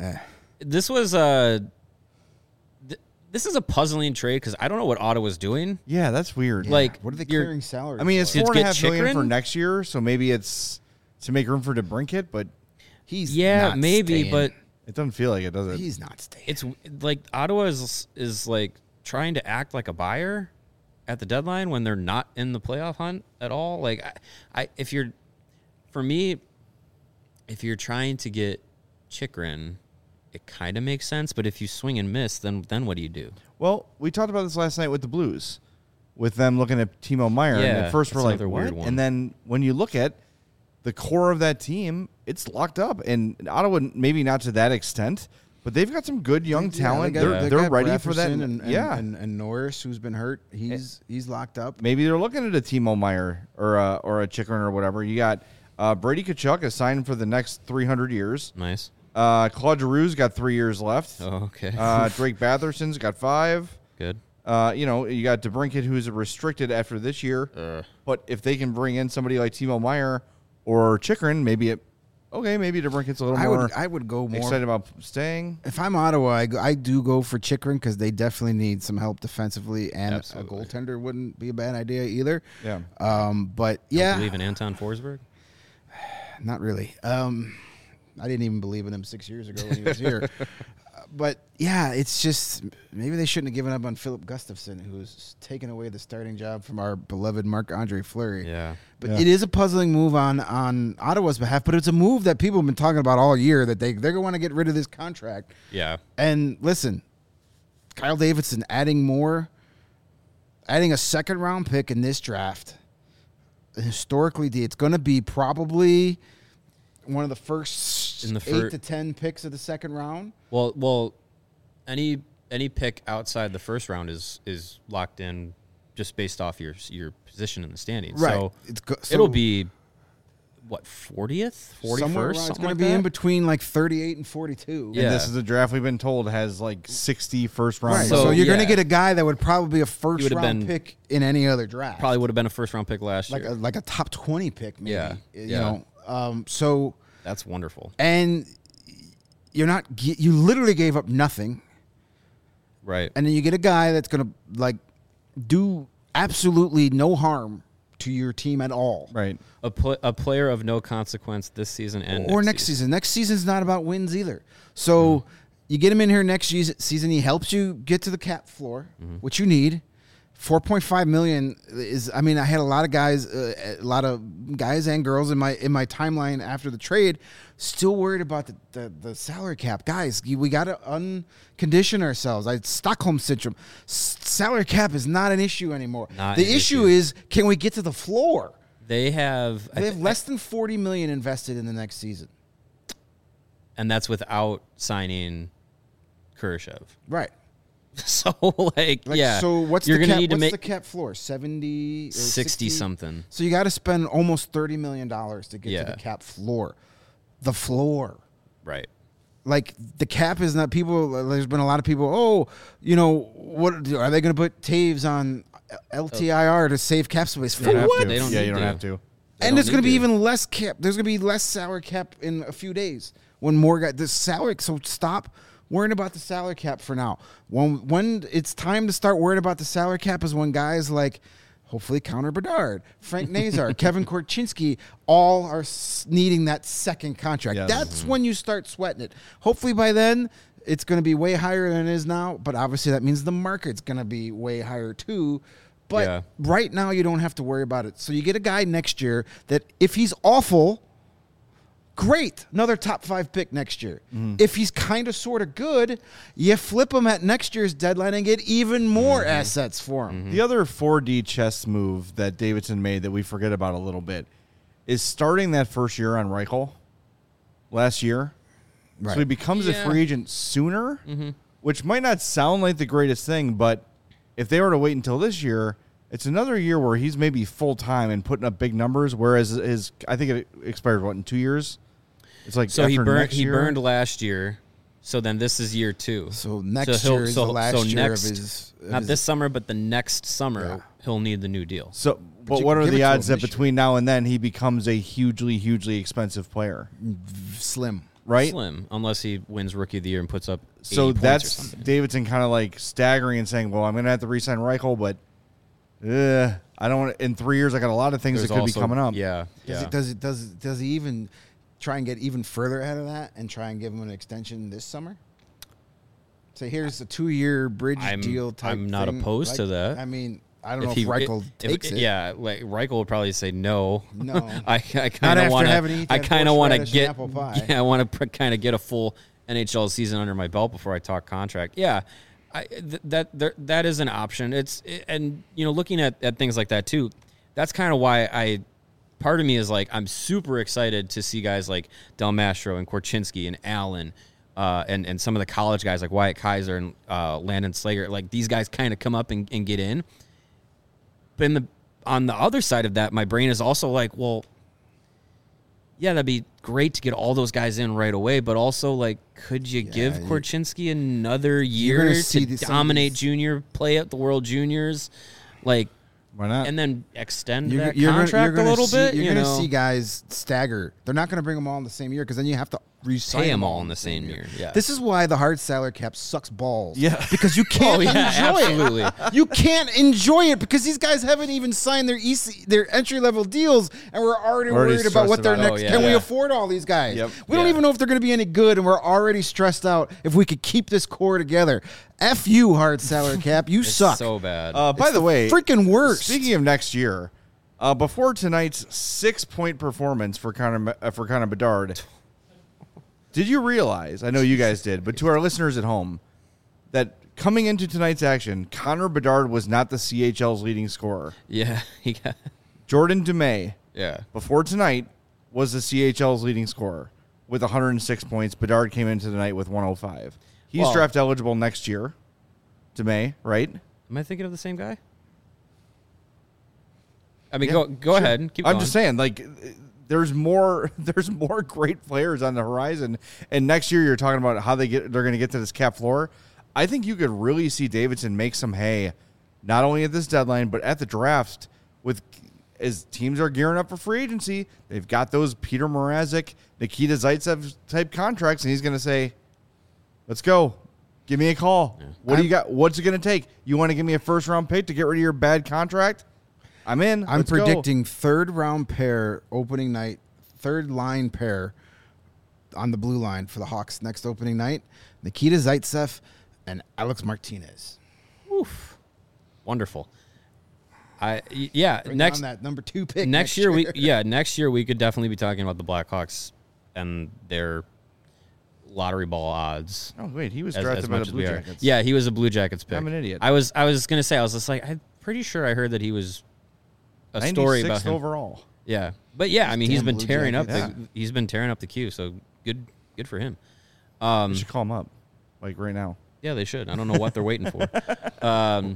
This was a. Th- this is a puzzling trade because I don't know what Ottawa's doing. Yeah, that's weird. Like, What are they you're- clearing salary? I mean, it's for? Did four and a get half million for Chychrun? next year, so maybe it's to make room for DeBrincat, but he's Yeah, not maybe, staying. but it doesn't feel like it, does it? he's not staying. it's like Ottawa is is like trying to act like a buyer at the deadline when they're not in the playoff hunt at all. Like, I, I if you're, for me, if you're trying to get Chychrun, it kind of makes sense. But if you swing and miss, then then what do you do? Well, we talked about this last night with the Blues, with them looking at Timo Meyer. and Yeah, at first we're that's like, another weird what? one. And then when you look at the core of that team, it's locked up. And Ottawa, maybe not to that extent, but they've got some good young talent. Yeah, they're they got- they're they got ready for that. Rafferson And, and, yeah. and, and Norris, who's been hurt, he's he's locked up. Maybe they're looking at a Timo Meyer or a, or a Chychrun or whatever. You got uh, Brady Tkachuk is signed for the next three hundred years. Nice. Uh, Claude Giroux's got three years left. Oh, okay. Uh, Drake Batherson's got five. Good. Uh, you know, you got DeBrincat, who's restricted after this year. Uh, But if they can bring in somebody like Timo Meyer or Chychrun, maybe it. Okay, maybe DeBrincat's a little I more would I would go more. excited about staying. If I'm Ottawa, I, go, I do go for Chychrun because they definitely need some help defensively, and Absolutely. a goaltender wouldn't be a bad idea either. Yeah. Um, but yeah. yeah, Believe in Anton Forsberg? not really. Um, I didn't even believe in him six years ago when he was here. Uh, but yeah, it's just maybe they shouldn't have given up on Philip Gustafson, who's taken away the starting job from our beloved Marc-Andre Fleury. Yeah. But Yeah. it is a puzzling move on, on Ottawa's behalf, but it's a move that people have been talking about all year, that they, they're going to want to get rid of this contract. Yeah. And listen, Kyle Davidson adding more, adding a second round pick in this draft. Historically, it's going to be probably one of the first In the eight fir- to ten picks of the second round. Well, well, any any pick outside the first round is is locked in just based off your your position in the standings. So It's go- so it'll be what, fortieth, forty-first, Somewhere around, it's something going like to be that? in between like thirty-eight and forty-two. Yeah. And this is a draft we've been told has like sixty first round. Right. So, So, you're going yeah. to get a guy that would probably be a first would've round been- pick in any other draft. Probably would have been a first round pick last like year. a, like a top twenty pick, maybe. Yeah, You yeah. know. Um, so That's wonderful. and you're not ge- you literally gave up nothing, Right. and then you get a guy that's going to like do absolutely no harm to your team at all. Right. A, pl- a player of no consequence this season and Or next season. Next season's not about wins either. So Mm-hmm. you get him in here next season. season he helps you get to the cap floor, Mm-hmm. which you need. four point five million is. I mean, I had a lot of guys, uh, a lot of guys and girls in my in my timeline after the trade, still worried about the, the, the salary cap. Guys, we got to uncondition ourselves. I Stockholm syndrome. S- salary cap is not an issue anymore. Not the an issue issue. is, can we get to the floor? They have, I They have thi- less than forty million invested in the next season. and that's without signing Kurashev. Right. So like, Like, yeah. So what's you're the gonna cap? need to What's make the cap floor? Seventy, or sixty something. So you got to spend almost thirty million dollars to get Yeah. to the cap floor. The floor. Right. Like the cap is not people. There's been a lot of people. Oh, you know what? Are they going to put Taves on L T I R to save cap space? For You don't have what? to. They don't yeah, need you don't to. have to. They And don't there's going to need be even less cap. There's going to be less salary cap in a few days when more guys. The salary. So stop worrying about the salary cap for now. When when it's time to start worrying about the salary cap is when guys like, hopefully Connor Bedard, Frank Nazar, Kevin Korchinski, all are s- needing that second contract. Yes. That's when you start sweating it. Hopefully by then it's going to be way higher than it is now. But obviously that means the market's going to be way higher too. But Yeah. right now you don't have to worry about it. So you get a guy next year that if he's awful, great, another top five pick next year. If he's kind of sort of good, you flip him at next year's deadline and get even more assets for him. The other four D chess move that Davidson made that we forget about a little bit is starting that first year on Reichel last year. Right. So he becomes Yeah. a free agent sooner, which might not sound like the greatest thing, but if they were to wait until this year, it's another year where he's maybe full time and putting up big numbers. Whereas his, I think it expired what in two years. It's like So he after burned. next He year? burned last year. So then this is year two. So next he'll- year is so- the last so year next- of his. of Not his- this summer, but the next summer Yeah. he'll need the new deal. So, but you what can are give it the to odds him that this year. between now and then he becomes a hugely, hugely expensive player? slim. Right. Slim, unless he wins Rookie of the Year and puts up. So eighty points or that's something. Davidson kind of like staggering and saying, "Well, I'm going to have to re-sign Reichel, but uh, I don't want. In three years, I got a lot of things There's that could also- be coming up." Yeah, Does yeah. it? Does it? Does it? Does he even try and get even further ahead of that and try and give him an extension this summer? So here's a two-year bridge I'm- deal type. I'm not thing. opposed Like, to that. I mean, I don't know if, he Reichel if- takes it. Yeah, like Reichel would probably say no. No. I, I Not kind of after want having to. eaten I that kind of want to horseradish and get. apple pie. Yeah, I want to kind of get a full N H L season under my belt before I talk contract. Yeah, I, th- that there, that is an option. It's and you know looking at, at things like that too. That's kind of why I. Part of me is like I'm super excited to see guys like Del Mastro and Korchinski and Allen. Uh, and, and some of the college guys like Wyatt Kaiser and uh, Landon Slager, like these guys kind of come up and, and get in. But in the on the other side of that, my brain is also like, well, yeah, that'd be great to get all those guys in right away. But also, like, could you give you- Korchinski another You're gonna year see to these- some of dominate these- junior, play at the World Juniors, like, Why not? and then extend You're, that you're gonna, contract you're gonna a little see, bit? You're you going to know? see guys stagger. They're not going to bring them all in the same year because then you have to re-sign Pay them them all in the same year. Yeah. This is why the hard salary cap sucks balls. Yeah. Because you can't Oh, yeah, enjoy absolutely. it. You can't enjoy it because these guys haven't even signed their E C, their entry level deals, and we're already, Already worried about what stressed their about it. next. Oh, yeah. Can we Yeah. afford all these guys? Yep. We don't Yeah. even know if they're going to be any good, and we're already stressed out if we could keep this core together. F you, hard salary cap. You It's suck. so bad. uh, by It's the, the way, freaking worst. Speaking of next year, uh, before tonight's six-point performance for Connor uh, for Connor Bedard, did you realize? I know you guys did, but to our listeners at home, that coming into tonight's action, Connor Bedard was not the C H L's leading scorer. yeah. He got, Jordan Dumais, yeah. before tonight, was the C H L's leading scorer with one hundred six points. Bedard came into the night with one hundred five. He's Well- draft eligible next year. Dumais, right? Am I thinking of the same guy? I mean, go go ahead. Keep I'm going. just saying, like, there's more there's more great players on the horizon. And next year you're talking about how they get they're going to get to this cap floor. I think you could really see Davidson make some hay, not only at this deadline but at the draft. With as teams are gearing up for free agency, they've got those Peter Mrazek, Nikita Zaitsev type contracts, and he's going to say, "Let's go." Give me a call. Yeah. What do you got? What's it going to take? You want to give me a first round pick to get rid of your bad contract? I'm in. I'm Let's predicting go. third round pair opening night, third line pair on the blue line for the Hawks next opening night. Nikita Zaitsev and Alex Martinez. Oof. Wonderful. I yeah, Bring next on that number two pick. Next, next year, year we yeah, next year we could definitely be talking about the Blackhawks and their lottery ball odds. Oh wait, he was as, drafted as by much the as Blue we are. Jackets. Yeah, he was a Blue Jackets pick. I'm an idiot. I was I was gonna say I was just like I'm pretty sure I heard that he was a story about him. overall. Yeah, but yeah, I mean he's been Blue tearing up. Jackets. The, he's been tearing up the queue. So good, good for him. Um, you should call him up, like right now. Yeah, they should. I don't know what they're waiting for. Um,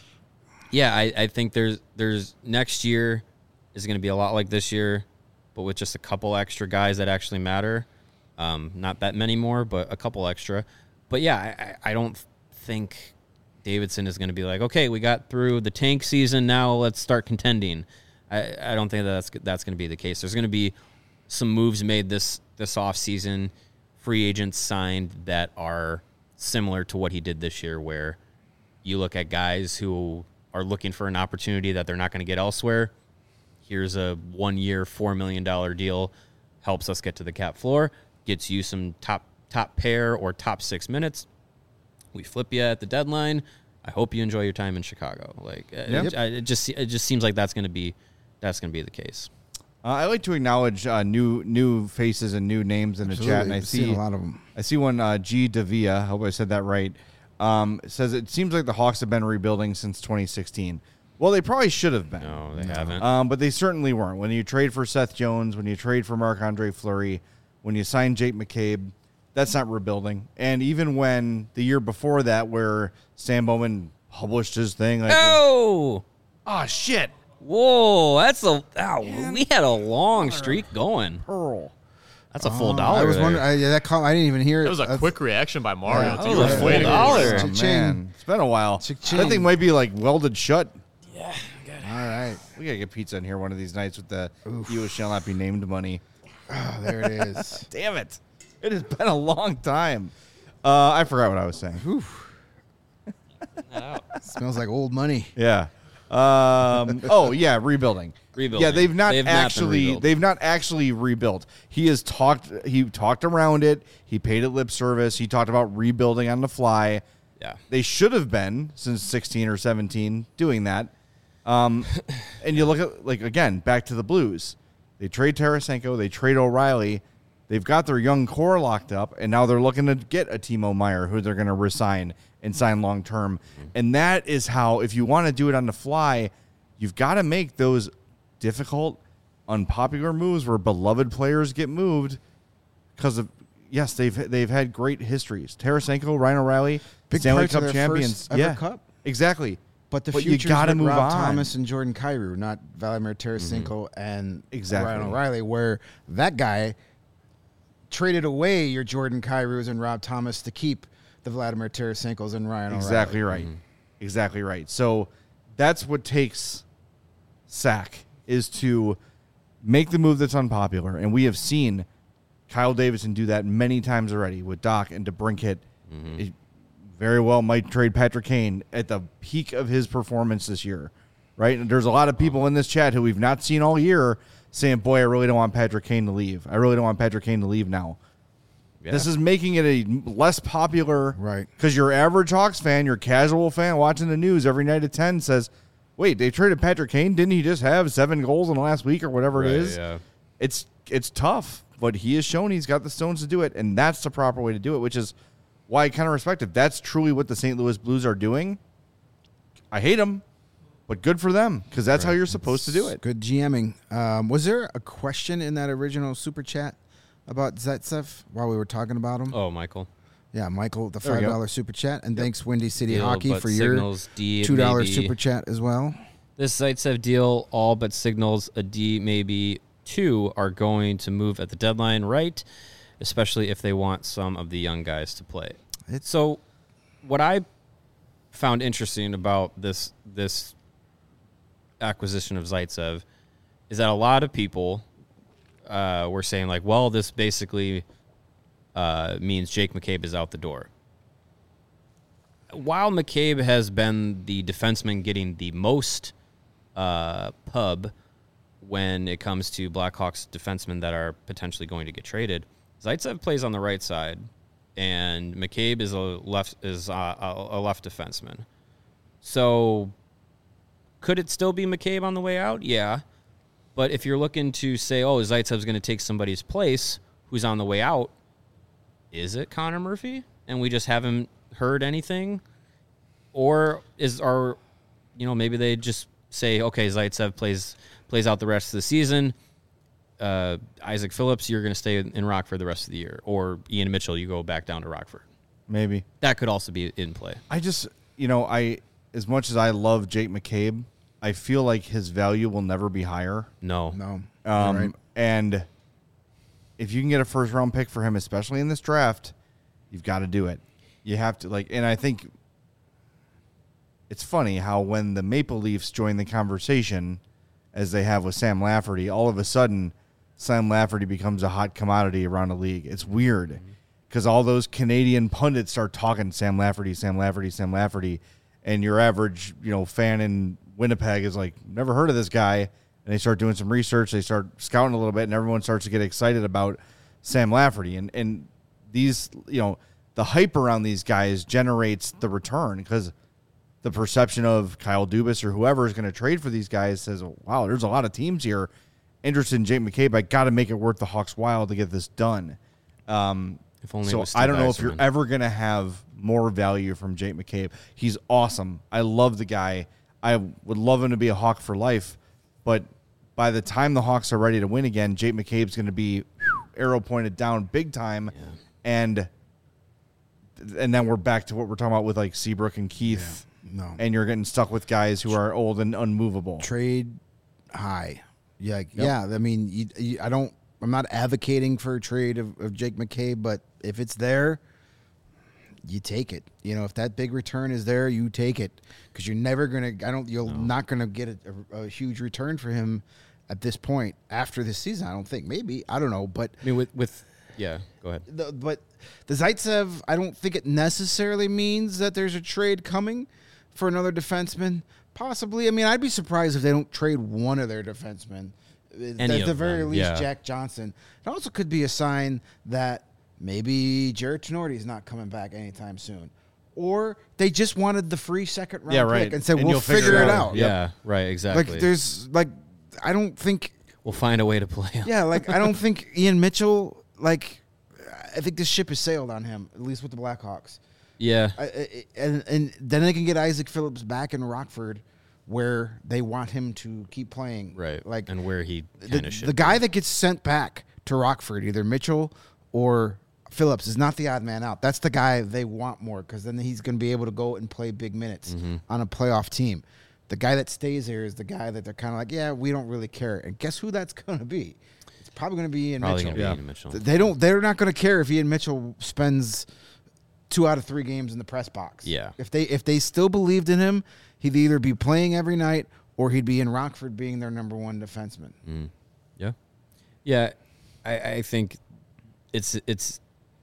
yeah, I, I think there's there's next year is going to be a lot like this year, but with just a couple extra guys that actually matter. Um, not that many more, but a couple extra. But yeah, I, I don't think Davidson is going to be like, okay, we got through the tank season, now let's start contending. I, I don't think that that's that's going to be the case. There's going to be some moves made this this offseason, free agents signed that are similar to what he did this year, where you look at guys who are looking for an opportunity that they're not going to get elsewhere. Here's a one-year, four million dollars deal, helps us get to the cap floor, gets you some top top pair or top six minutes. We flip you at the deadline. I hope you enjoy your time in Chicago. Like Yep. it, it just it just seems like that's going to be that's going to be the case. Uh, I like to acknowledge uh, new new faces and new names in the Absolutely. chat, and I I've seen see a lot of them. I see one uh, G Davia. I hope I said that right. Um, says it seems like the Hawks have been rebuilding since twenty sixteen. Well, they probably should have been. No, they haven't. Um, but they certainly weren't. When you trade for Seth Jones, when you trade for Marc-Andre Fleury, when you sign Jake McCabe, that's not rebuilding. And even when the year before that, where Sam Bowman published his thing, like, oh, oh shit, whoa, that's a wow, we had a long streak going. Pearl. That's a full Oh, dollar. I was there. wondering. I, yeah, that call, I didn't even hear it. That was a That's- quick reaction by Mario. Yeah, too. that He was a was full waiting. dollar. Oh, Cha-ching. man. It's been a while. Cha-ching. That thing might be like welded shut. Yeah, All right. We gotta get pizza in here one of these nights with the "You shall not be named" money. Oh, there it is. Damn it! It has been a long time. Uh, I forgot what I was saying. Smells like old money. Yeah. Um, oh yeah, rebuilding. Rebuilding. Yeah, they've not They've not been actually rebuilt. they've not actually rebuilt. He has talked he talked around it. He paid it lip service. He talked about rebuilding on the fly. yeah. They should have been since sixteen or seventeen doing that. Um, and you look at, like, again, back to the Blues. They trade Tarasenko. They trade O'Reilly. They've got their young core locked up, and now they're looking to get a Timo Meyer who they're going to resign and sign long term. And that is how, if you want to do it on the fly, you've got to make those difficult, unpopular moves where beloved players get moved because of, yes, they've they've had great histories. Tarasenko, Ryan O'Reilly, Big Stanley parts of Cup their champions. first ever yeah, cup. exactly. But the But you future's gotta with move Rob on. Thomas and Jordan Kyrou, not Vladimir Tarasenko and Exactly. Ryan O'Reilly, where that guy traded away your Jordan Kyrous and Rob Thomas to keep the Vladimir Tarasenkos and Ryan Exactly O'Reilly. right. Exactly right. So that's what takes Sack is to make the move that's unpopular. And we have seen Kyle Davidson do that many times already with Doc and DeBrincat. It very well might trade Patrick Kane at the peak of his performance this year, right? And there's a lot of people in this chat who we've not seen all year saying, boy, I really don't want Patrick Kane to leave. I really don't want Patrick Kane to leave now. Yeah. This is making it a less popular, Right. Because your average Hawks fan, your casual fan watching the news every night at ten says, wait, they traded Patrick Kane? Didn't he just have seven goals in the last week or whatever Right, it is? yeah. It's it's tough, but he has shown he's got the stones to do it, and that's the proper way to do it, which is why I kind of respect it. That's truly what the Saint Louis Blues are doing. I hate them, but good for them, because that's how you're supposed to do it. Good GMing. Um, was there a question in that original super chat about Zaitsev while we were talking about him? Oh, Michael. Yeah, Michael, the There we five go. dollar super chat, and thanks Windy City Deal, Hockey but for your signals D, it two dollar may be- super chat as well. This Zaitsev deal, all but signals a D, maybe two are going to move at the deadline, right? Especially if they want some of the young guys to play. It's So what I found interesting about this this acquisition of Zaitsev is that a lot of people uh, were saying, like, well, this basically uh, means Jake McCabe is out the door. While McCabe has been the defenseman getting the most uh, pub when it comes to Blackhawks defensemen that are potentially going to get traded, Zaitsev plays on the right side, and McCabe is a left is a, a left defenseman. So, could it still be McCabe on the way out? Yeah, but if you're looking to say, oh, Zaitsev's going to take somebody's place who's on the way out, is it Connor Murphy? And we just haven't heard anything? Or is our, you know, maybe they just say, okay, Zaitsev plays plays out the rest of the season. Uh, Isaac Phillips, you're going to stay in Rockford the rest of the year. Or Ian Mitchell, you go back down to Rockford. Maybe. That could also be in play. I just, you know, I as much as I love Jake McCabe, I feel like his value will never be higher. No. no. Um, You're right. And if you can get a first round pick for him, especially in this draft, you've got to do it. You have to, like, and I think it's funny how when the Maple Leafs join the conversation, as they have with Sam Lafferty, all of a sudden Sam Lafferty becomes a hot commodity around the league. It's weird because all those Canadian pundits start talking Sam Lafferty, Sam Lafferty, Sam Lafferty, and your average, you know, fan in Winnipeg is like, never heard of this guy. And they start doing some research, they start scouting a little bit, and everyone starts to get excited about Sam Lafferty. And and these, you know, the hype around these guys generates the return because the perception of Kyle Dubas or whoever is going to trade for these guys says, wow, there's a lot of teams here interested in Jake McCabe. I got to make it worth the Hawks' while to get this done. Um, If only it so was Steve I don't know if you're Yzerman. ever going to have more value from Jake McCabe. He's awesome. I love the guy. I would love him to be a Hawk for life. But by the time the Hawks are ready to win again, Jake McCabe's going to be arrow pointed down big time. Yeah. And and then we're back to what we're talking about with like Seabrook and Keith. Yeah. No. And you're getting stuck with guys who are old and unmovable. Trade high. Yeah, yeah. I mean, you, you, I don't. I'm not advocating for a trade of, of Jake McCabe, but if it's there, you take it. You know, if that big return is there, you take it because you're never gonna. I don't. You're No. not gonna get a, a, a huge return for him at this point after this season. I don't think. Maybe I don't know, but I mean, with, with yeah, go ahead. the, but the Zaitsev, I don't think it necessarily means that there's a trade coming for another defenseman. Possibly. I mean, I'd be surprised if they don't trade one of their defensemen. Any At of the very them, least, yeah. Jack Johnson. It also could be a sign that maybe Jared Tenorti is not coming back anytime soon. Or they just wanted the free second round Yeah, pick right. and said, And we'll you'll figure figure it it out. out. Yeah, right, exactly. Like, there's, like, I don't think, we'll find a way to play him. yeah, like, I don't think Ian Mitchell, like, I think this ship has sailed on him, at least with the Blackhawks. Yeah. I, I, and and then they can get Isaac Phillips back in Rockford, where they want him to keep playing. Right. Like and where he the, kind of should the guy that gets sent back to Rockford, either Mitchell or Phillips, is not the odd man out. That's the guy they want more because then he's going to be able to go and play big minutes Mm-hmm. on a playoff team. The guy that stays there is the guy that they're kind of like, yeah, we don't really care. And guess who that's going to be? It's probably going to be Ian Probably Mitchell. going to be Ian Mitchell. They don't. They're not going to care if Ian Mitchell spends two out of three games in the press box. Yeah. If they if they still believed in him, he'd either be playing every night or he'd be in Rockford being their number one defenseman. Mm. Yeah. Yeah. I, I think it's it's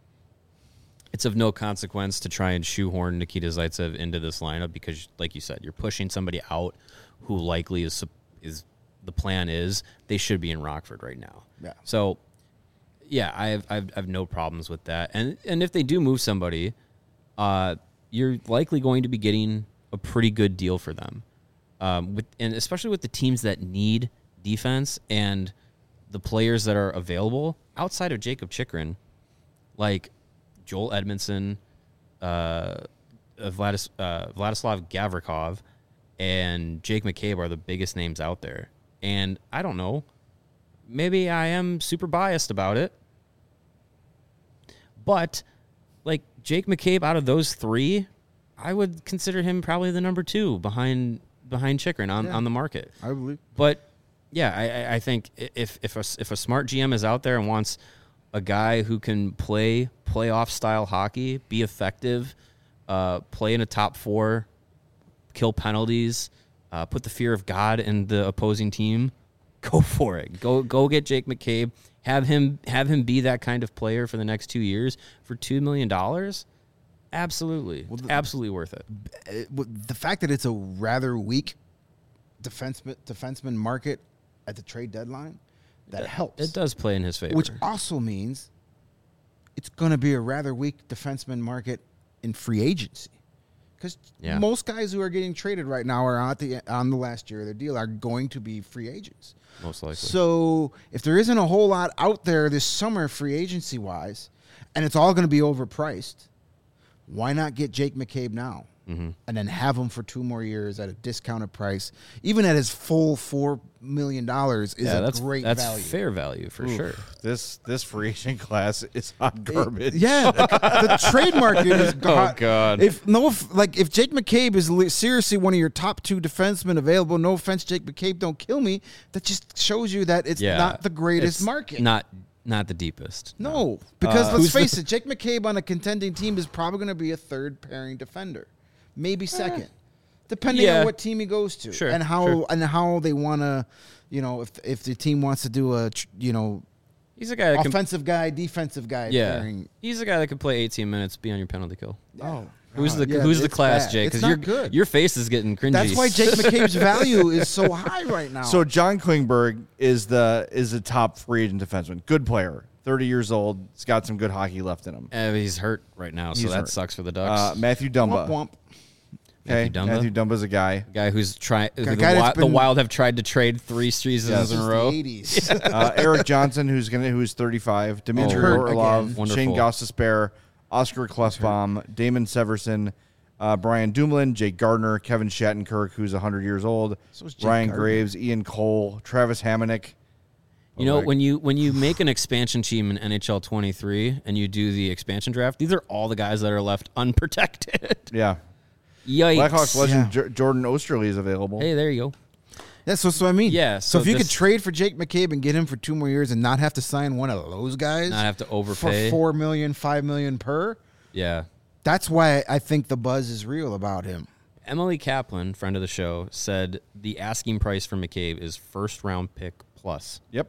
it's of no consequence to try and shoehorn Nikita Zaitsev into this lineup because, like you said, you're pushing somebody out who likely is is the plan is they should be in Rockford right now. Yeah. So, yeah, I have I have, I have no problems with that. And and if they do move somebody, uh, you're likely going to be getting a pretty good deal for them. Um, with and especially with the teams that need defense and the players that are available outside of Jacob Chikrin, like Joel Edmondson, uh, Vladis, uh, Vladislav Gavrikov, and Jake McCabe are the biggest names out there. And I don't know, maybe I am super biased about it, but like Jake McCabe out of those three, I would consider him probably the number two behind behind Chikrin on, Yeah. on the market. I believe. But Yeah, I, I think if if a, if a smart G M is out there and wants a guy who can play playoff style hockey, be effective, uh, play in a top four, kill penalties, uh, put the fear of God in the opposing team, go for it. Go go get Jake McCabe. Have him have him be that kind of player for the next two years for two million dollars. Absolutely, well, the, absolutely worth it. it. The fact that it's a rather weak defenseman defenseman market at the trade deadline, that it, helps. It does play in his favor. Which also means it's going to be a rather weak defenseman market in free agency. Because yeah. most guys who are getting traded right now are on the, on the last year of their deal are going to be free agents. Most likely. So if there isn't a whole lot out there this summer free agency-wise, and it's all going to be overpriced, why not get Jake McCabe now? Mm-hmm. And then have him for two more years at a discounted price, even at his full four million dollars, is yeah, a that's, great that's value. fair value for Oof. sure. This this free agent class is hot garbage. It, yeah, the, the trade market is. Oh God! If no, if, like if Jake McCabe is li- seriously one of your top two defensemen available, no offense, Jake McCabe, don't kill me. That just shows you that it's yeah, not the greatest it's market. Not not the deepest. No, no. because Uh, let's who's face the- it, Jake McCabe on a contending team is probably going to be a third pairing defender. Maybe second, depending Yeah. on what team he goes to, Sure, and how sure. and how they want to, you know, if if the team wants to do a, tr- you know, He's a guy that can, offensive guy, defensive guy. yeah. Pairing. He's a guy that can play eighteen minutes, be on your penalty kill. Oh, Who's the yeah, Who's the it's class, bad. Jay? It's Because not your good. your face is getting cringy. That's why Jake McCabe's value is so high right now. So John Klingberg is the is the top free agent defenseman. Good player, thirty years old. He's got some good hockey left in him. Uh, he's hurt right now, so He's that hurt. sucks for the Ducks. Uh, Matthew Dumba. womp womp. Okay, Matthew Dumba? Matthew Dumba's a guy. guy who's trying. The, guy Wi- that's the been- Wild have tried to trade three seasons Yes. in a Since row. the eighties. Uh, Eric Johnson, who's gonna who's thirty-five. Dimitri hurt Orlov, again. Wonderful. Shane Gostisbehere, Oscar Klefbom, Damon Severson, uh, Brian Dumoulin, Jake Gardner, Kevin Shattenkirk, who's one hundred years old, So is Jake Ryan Gardner. Graves, Ian Cole, Travis Hamonic. You know, like- when you when you make an expansion team in N H L twenty-three and you do the expansion draft, these are all the guys that are left unprotected. Yeah. Yikes! Blackhawks legend Yeah. J- Jordan Osterley is available. Hey, there you go. That's what, so I mean. Yeah, So, so if you this- could trade for Jake McCabe and get him for two more years and not have to sign one of those guys, Not have to for overpay. four million, five million per. Yeah. That's why I think the buzz is real about him. Emily Kaplan, friend of the show, said the asking price for McCabe is first round pick plus. Yep.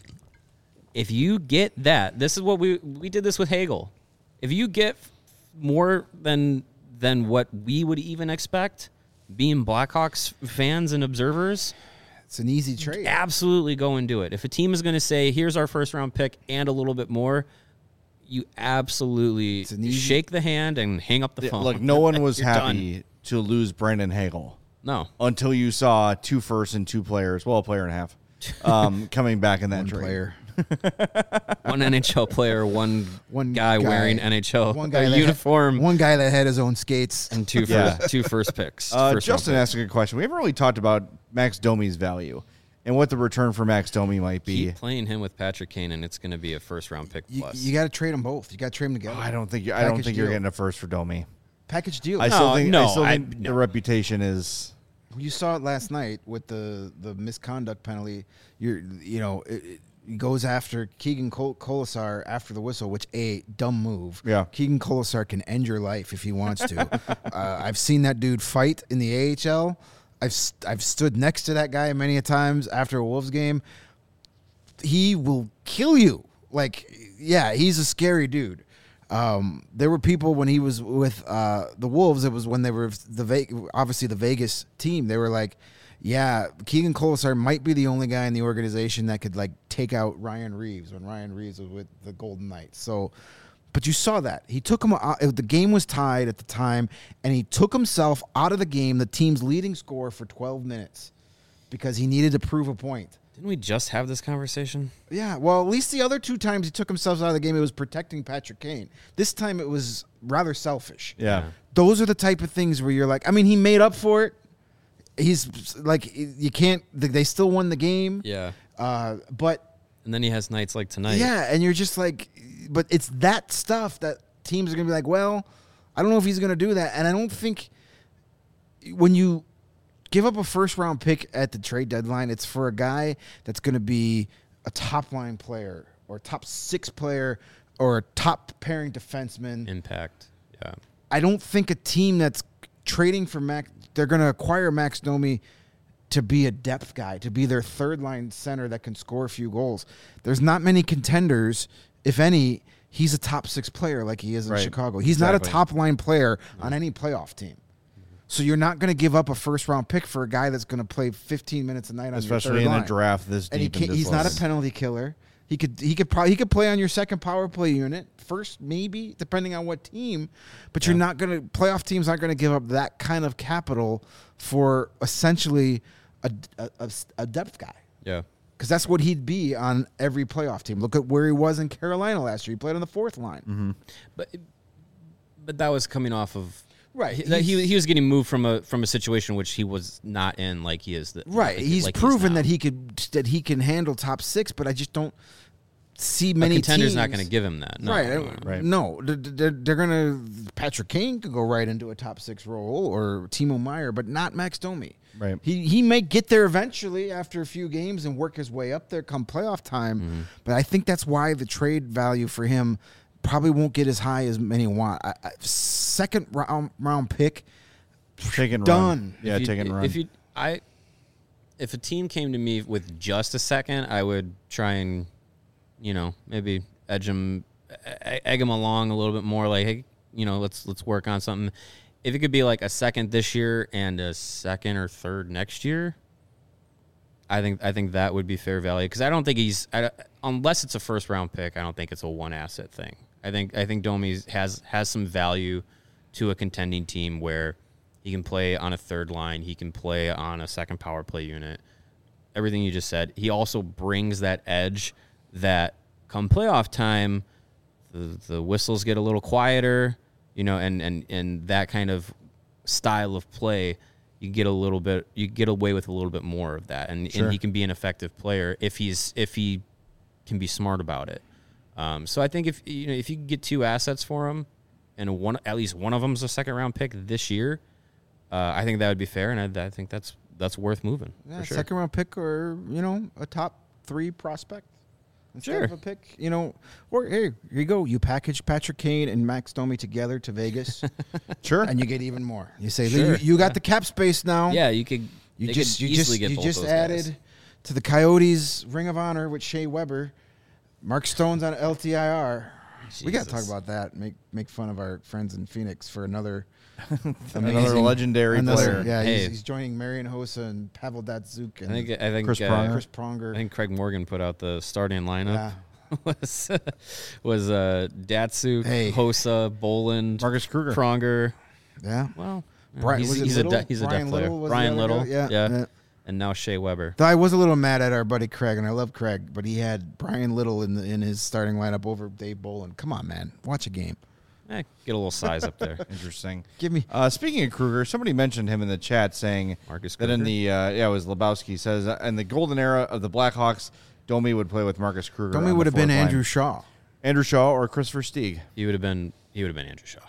If you get that, this is what we we did this with Hagel. If you get more than than what we would even expect, being Blackhawks fans and observers, It's an easy trade. absolutely go and do it. If a team is going to say, "Here's our first round pick and a little bit more," you absolutely an easy- shake the hand and hang up the Yeah, phone. Look, no one was You're happy done. to lose Brandon Hagel No. until you saw two firsts and two players, well, a player and a half, um, coming back in that One trade. player. One N H L player, one One guy, guy- wearing N H L One guy a that uniform, Had, one guy that had his own skates. and two first, Yeah. two first picks. Uh, first Justin round asked a good question. We haven't really talked about Max Domi's value and what the return for Max Domi might picks. be. Keep playing him with Patrick Kane, and it's going to be a first round pick You, plus. you got to trade them both. You got to trade them together. Oh, I don't think you, I don't Package think you're deal. getting a first for Domi. Package deal. I still No, think, I no, still I- think no. the reputation is. You saw it last night with the, the misconduct penalty. You're you know it, it goes after Keegan Col- Colasar after the whistle, which a dumb move. Yeah. Keegan Colasar can end your life if he wants to. uh, I've seen that dude fight in the A H L. I've st- I've stood next to that guy many a times after a Wolves game. He will kill you. Like, yeah, he's a scary dude. Um, there were people when he was with uh, the Wolves. It was when they were the Ve- obviously the Vegas team. They were like, yeah, Keegan Colasar might be the only guy in the organization that could like take out Ryan Reeves when Ryan Reeves was with the Golden Knights. So, but you saw that he took him. Out, the game was tied at the time, and he took himself out of the game, the team's leading scorer, for twelve minutes because he needed to prove a point. Didn't we just have this conversation? Yeah, well, at least the other two times he took himself out of the game, it was protecting Patrick Kane. This time it was rather selfish. Yeah. Those are the type of things where you're like, I mean, he made up for it. He's like, you can't, they still won the game. Yeah. Uh, but And then he has nights like tonight. yeah, and you're just like, but it's that stuff that teams are going to be like, well, I don't know if he's going to do that. And I don't think when you give up a first round pick at the trade deadline. It's for a guy that's going to be a top line player or a top six player or a top pairing defenseman. Impact. Yeah. I don't think a team that's trading for Max, they're going to acquire Max Domi to be a depth guy, to be their third line center that can score a few goals. There's not many contenders, if any. He's a top six player like he is in Right. Chicago. He's Exactly. not a top line player on any playoff team. So you're not going to give up a first round pick for a guy that's going to play fifteen minutes a night on Especially your third in line. a draft this And he deep. in can't, this he's not a level. penalty killer. He could he could probably he could play on your second power play unit first, maybe depending on what team. But you're not going to playoff teams aren't going to give up that kind of capital for essentially a, a, a, a depth guy. Yeah. Because that's what he'd be on every playoff team. Look at where he was in Carolina last year. He played on the fourth line. Mm-hmm. But but that was coming off of Right. He, that he He's- he was getting moved from a from a situation which he was not in, like he is. The, Right. like- he's like proven now. that he could that he can handle top six, but I just don't see A many contender's teams. not going to give him that. No, right. no, no. Right. No, they're, they're, they're going to. Patrick Kane could go right into a top six role or Timo Meyer, but not Max Domi. Right. He he may get there eventually after a few games and work his way up there come playoff time, Mm-hmm. but I think that's why the trade value for him probably won't get as high as many want. I, I, second round round pick, Take and done. Run. Yeah, If you- take and run. If you, I, if a team came to me with just a second, I would try and, you know, maybe edge them, egg them along a little bit more. Like, hey, you know, let's let's work on something. If it could be like a second this year and a second or third next year, I think I think that would be fair value because I don't think he's I, unless it's a first round pick. I don't think it's a one asset thing. I think I think Domi has has some value to a contending team where he can play on a third line, he can play on a second power play unit. Everything you just said. He also brings that edge that come playoff time, the the whistles get a little quieter, you know, and and and that kind of style of play. You get a little bit, you get away with a little bit more of that, and, Sure. and he can be an effective player if he's if he can be smart about it. Um, so I think if you know if you can get two assets for him, and one at least one of them's a second round pick this year, uh, I think that would be fair, and I, I think that's that's worth moving Yeah, for sure. second round pick or, you know, a top three prospect. Instead Sure. of a pick, you know, or hey, here you go. You package Patrick Kane and Max Domi together to Vegas, sure. and you get even more. You say, Sure. you, you got the cap space now. Yeah, you could. you they just could you easily just get you both just those added guys. to the Coyotes Ring of Honor with Shea Weber, Mark Stone's on L T I R. We got to talk Jesus. about that. Make make fun of our friends in Phoenix for another Another amazing- legendary another- player. Yeah, Hey. he's, he's joining Marian Hossa and Pavel Datsuk and I think I think Chris uh, Pronger. Chris Pronger. I think Craig Morgan put out the starting lineup. Yeah. was was uh, Datsuk, Hey. Hossa, Boland, Marcus Kruger. Pronger. Yeah. Well, Brian- he's, was it he's a Little? de- he's a Brian depth player. Little was the Brian other Little, guy? Yeah, yeah. yeah. and now Shea Weber. Though I was a little mad at our buddy Craig, and I love Craig, but he had Brian Little in the, in his starting lineup over Dave Bolin. Come on, man, watch a game. Eh, get a little size up there. Interesting. Give me. Uh, speaking of Kruger, somebody mentioned him in the chat saying Marcus that in Kruger? the uh, yeah it was Lebowski says uh, in the golden era of the Blackhawks, Domi would play with Marcus Kruger. Domi on the would have been fourth line. Andrew Shaw. Andrew Shaw or Christopher Stieg. He would have been he would have been Andrew Shaw.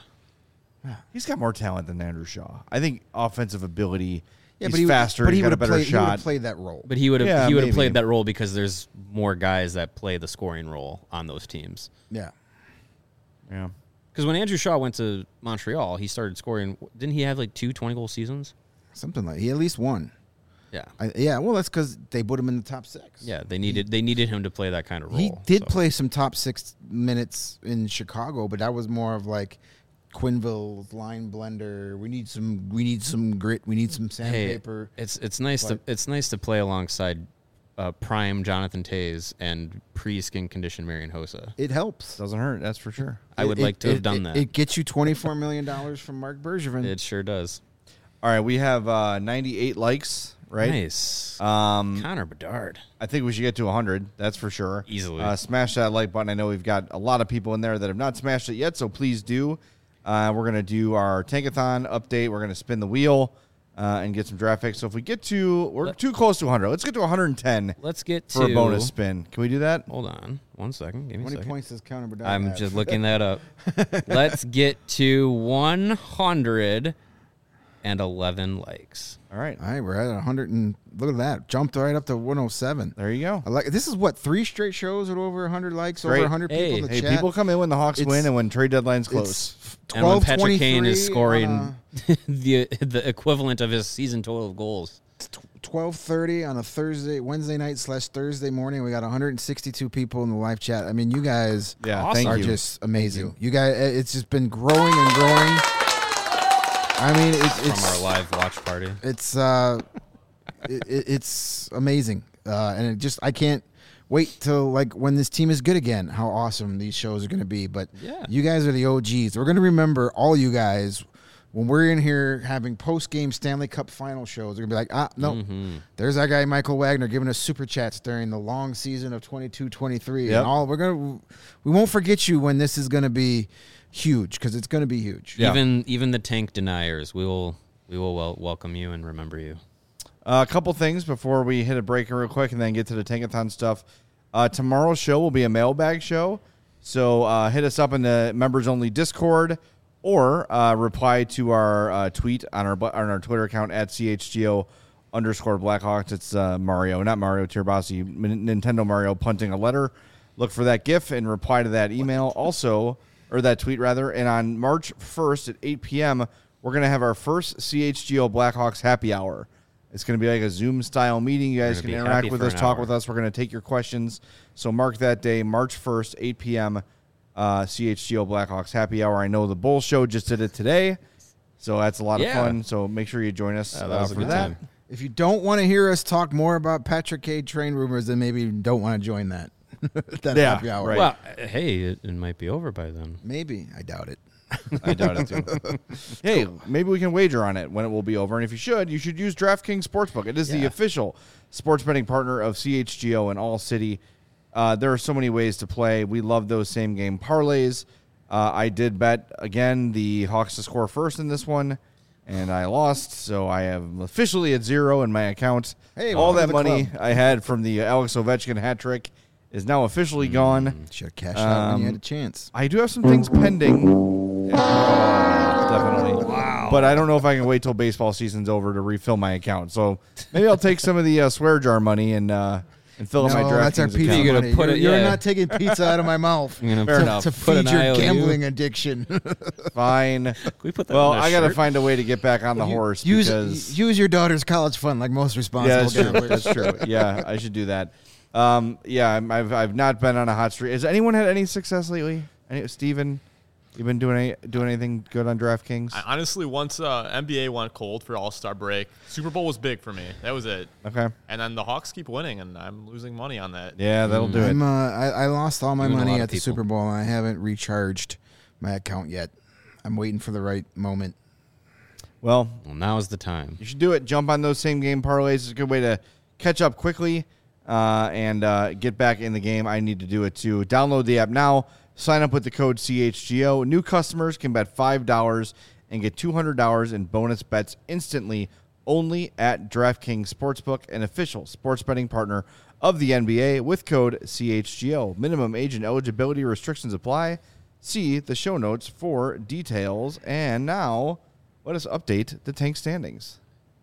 He's got more talent than Andrew Shaw. I think offensive ability. Yeah, he's but he would- faster. But he's he got would a have better played. He would shot. have played that role. But he would have Yeah, he would have maybe. played that role because there's more guys that play the scoring role on those teams. Yeah. yeah. Because when Andrew Shaw went to Montreal, he started scoring. Didn't he have like two twenty-goal seasons? Something like he at least won. Yeah. I, yeah, well, that's because they put him in the top six. Yeah, they needed they needed him to play that kind of role. He did so. play some top six minutes in Chicago, but that was more of like Quinville's line blender. We need some. We need some grit. We need some Hey, sandpaper. it's it's nice But- to it's nice to play alongside uh, prime Jonathan Tays and pre skin conditioned Marian Hossa. It helps. Doesn't hurt. That's for sure. I would It- like to it- have done it- that. It gets you twenty-four million dollars from Mark Bergevin. It sure does. All right, we have uh, ninety-eight likes. Right. Nice. Um, Connor Bedard. I think we should get to one hundred. That's for sure. Easily. Uh, smash that like button. I know we've got a lot of people in there that have not smashed it yet, so please do. Uh, we're going to do our Tankathon update. We're going to spin the wheel uh, and get some draft picks. So if we get to, we're Let- too close to one hundred. Let's get to one hundred ten Let's get for to a bonus spin. Can we do that? Hold on, one second. Give me How a many second. points does Connor Bedard I'm have? just looking that up. Let's get to one hundred eleven likes. All right. All right, we're at one hundred and look at that. Jumped right up to one oh seven. There you go. I like this is what three straight shows with over one hundred likes, Great. over one hundred Hey. people in the Hey, chat. people come in when the Hawks It's- win and when trade deadlines close. It's And when Patrick Kane is twelve scoring twenty-three the the equivalent of his season total of goals. twelve thirty on a Thursday, Wednesday night slash Thursday morning. We got one hundred sixty-two people in the live chat. I mean, you guys Yeah, Awesome. thank are you. just amazing. You. guys, it's just been growing and growing. I mean, it's From it's our live watch party. it's uh, it, it- it's amazing, uh, and it just I can't wait till like when this team is good again. How awesome these shows are going to be! But Yeah. you guys are the O Gs. We're going to remember all you guys. When we're in here having post-game Stanley Cup final shows, they're going to be like, ah, no, Mm-hmm. there's that guy Michael Wagner giving us super chats during the long season of twenty-two twenty-three. Yep. And all we're going to we won't forget you when this is going to be huge because it's going to be huge. Yeah. Even even the tank deniers, we will we will wel- welcome you and remember you. Uh, a couple things before we hit a break real quick and then get to the Tankathon stuff. Uh, tomorrow's show will be a mailbag show. So uh, hit us up in the members-only Discord or uh, reply to our uh, tweet on our bu- on our Twitter account at C H G O underscore Blackhawks. It's uh, Mario, not Mario Tirabassi, M- Nintendo Mario punting a letter. Look for that GIF and reply to that email also, or that tweet rather. And on March first at eight p.m., we're going to have our first C H G O Blackhawks happy hour. It's going to be like a Zoom-style meeting. You guys We're can gonna be interact happy with for us, an talk hour. with us. We're going to take your questions. So mark that day, March first, eight p.m., uh, C H G O Blackhawks happy hour. I know the Bull Show just did it today, so that's a lot Yeah. of fun. So make sure you join us Yeah, that uh, was a for good that. time. If you don't want to hear us talk more about Patrick Kane train rumors, then maybe you don't want to join that. that Yeah, happy hour. right. Well, uh, hey, it, it might be over by then. Maybe. I doubt it. I doubt it too. Hey, maybe we can wager on it when it will be over. And if you should, you should use DraftKings Sportsbook. It is the Yeah. official sports betting partner of C H G O in all city. Uh, there are so many ways to play. We love those same game parlays. Uh, I did bet again the Hawks to score first in this one, and I lost. So I am officially at zero in my account. Hey, all welcome that to the money club. I had from the Alex Ovechkin hat trick is now officially gone. Should have cashed out when you had a Um, chance. I do have some things pending. Uh, definitely. Wow. But I don't know if I can wait till baseball season's over to refill my account. So maybe I'll take some of the uh, swear jar money and uh, and fill up my No, that's our DraftKings pizza account. You're gonna money. put you're it- you're yeah. not taking pizza out of my mouth You're gonna Fair put, enough. to put an feed your I O U. gambling addiction. Fine. Can we put that Well, on a I got to shirt? find a way to get back on the horse use because use your daughter's college fund like most yeah, responsible that's true. gamblers. That's true. Yeah, I should do that. Um, yeah, I'm, I've I've not been on a hot streak. Has anyone had any success lately? Any, Steven, you been doing any, doing anything good on DraftKings? I, honestly, once uh, N B A went cold for All-Star break, Super Bowl was big for me. That was it. Okay. And then the Hawks keep winning, and I'm losing money on that. Yeah, that'll do it. I'm, uh, I, I lost all my You and a money lot of at the people. Super Bowl, and I haven't recharged my account yet. I'm waiting for the right moment. Well, Well, now's the time. you should do it. Jump on those same game parlays. It's a good way to catch up quickly uh, and uh, get back in the game. I need to do it too. Download the app now. Sign up with the code C H G O. New customers can bet five dollars and get two hundred dollars in bonus bets instantly only at DraftKings Sportsbook, an official sports betting partner of the N B A with code C H G O. Minimum age and eligibility restrictions apply. See the show notes for details. And now let us update the tank standings.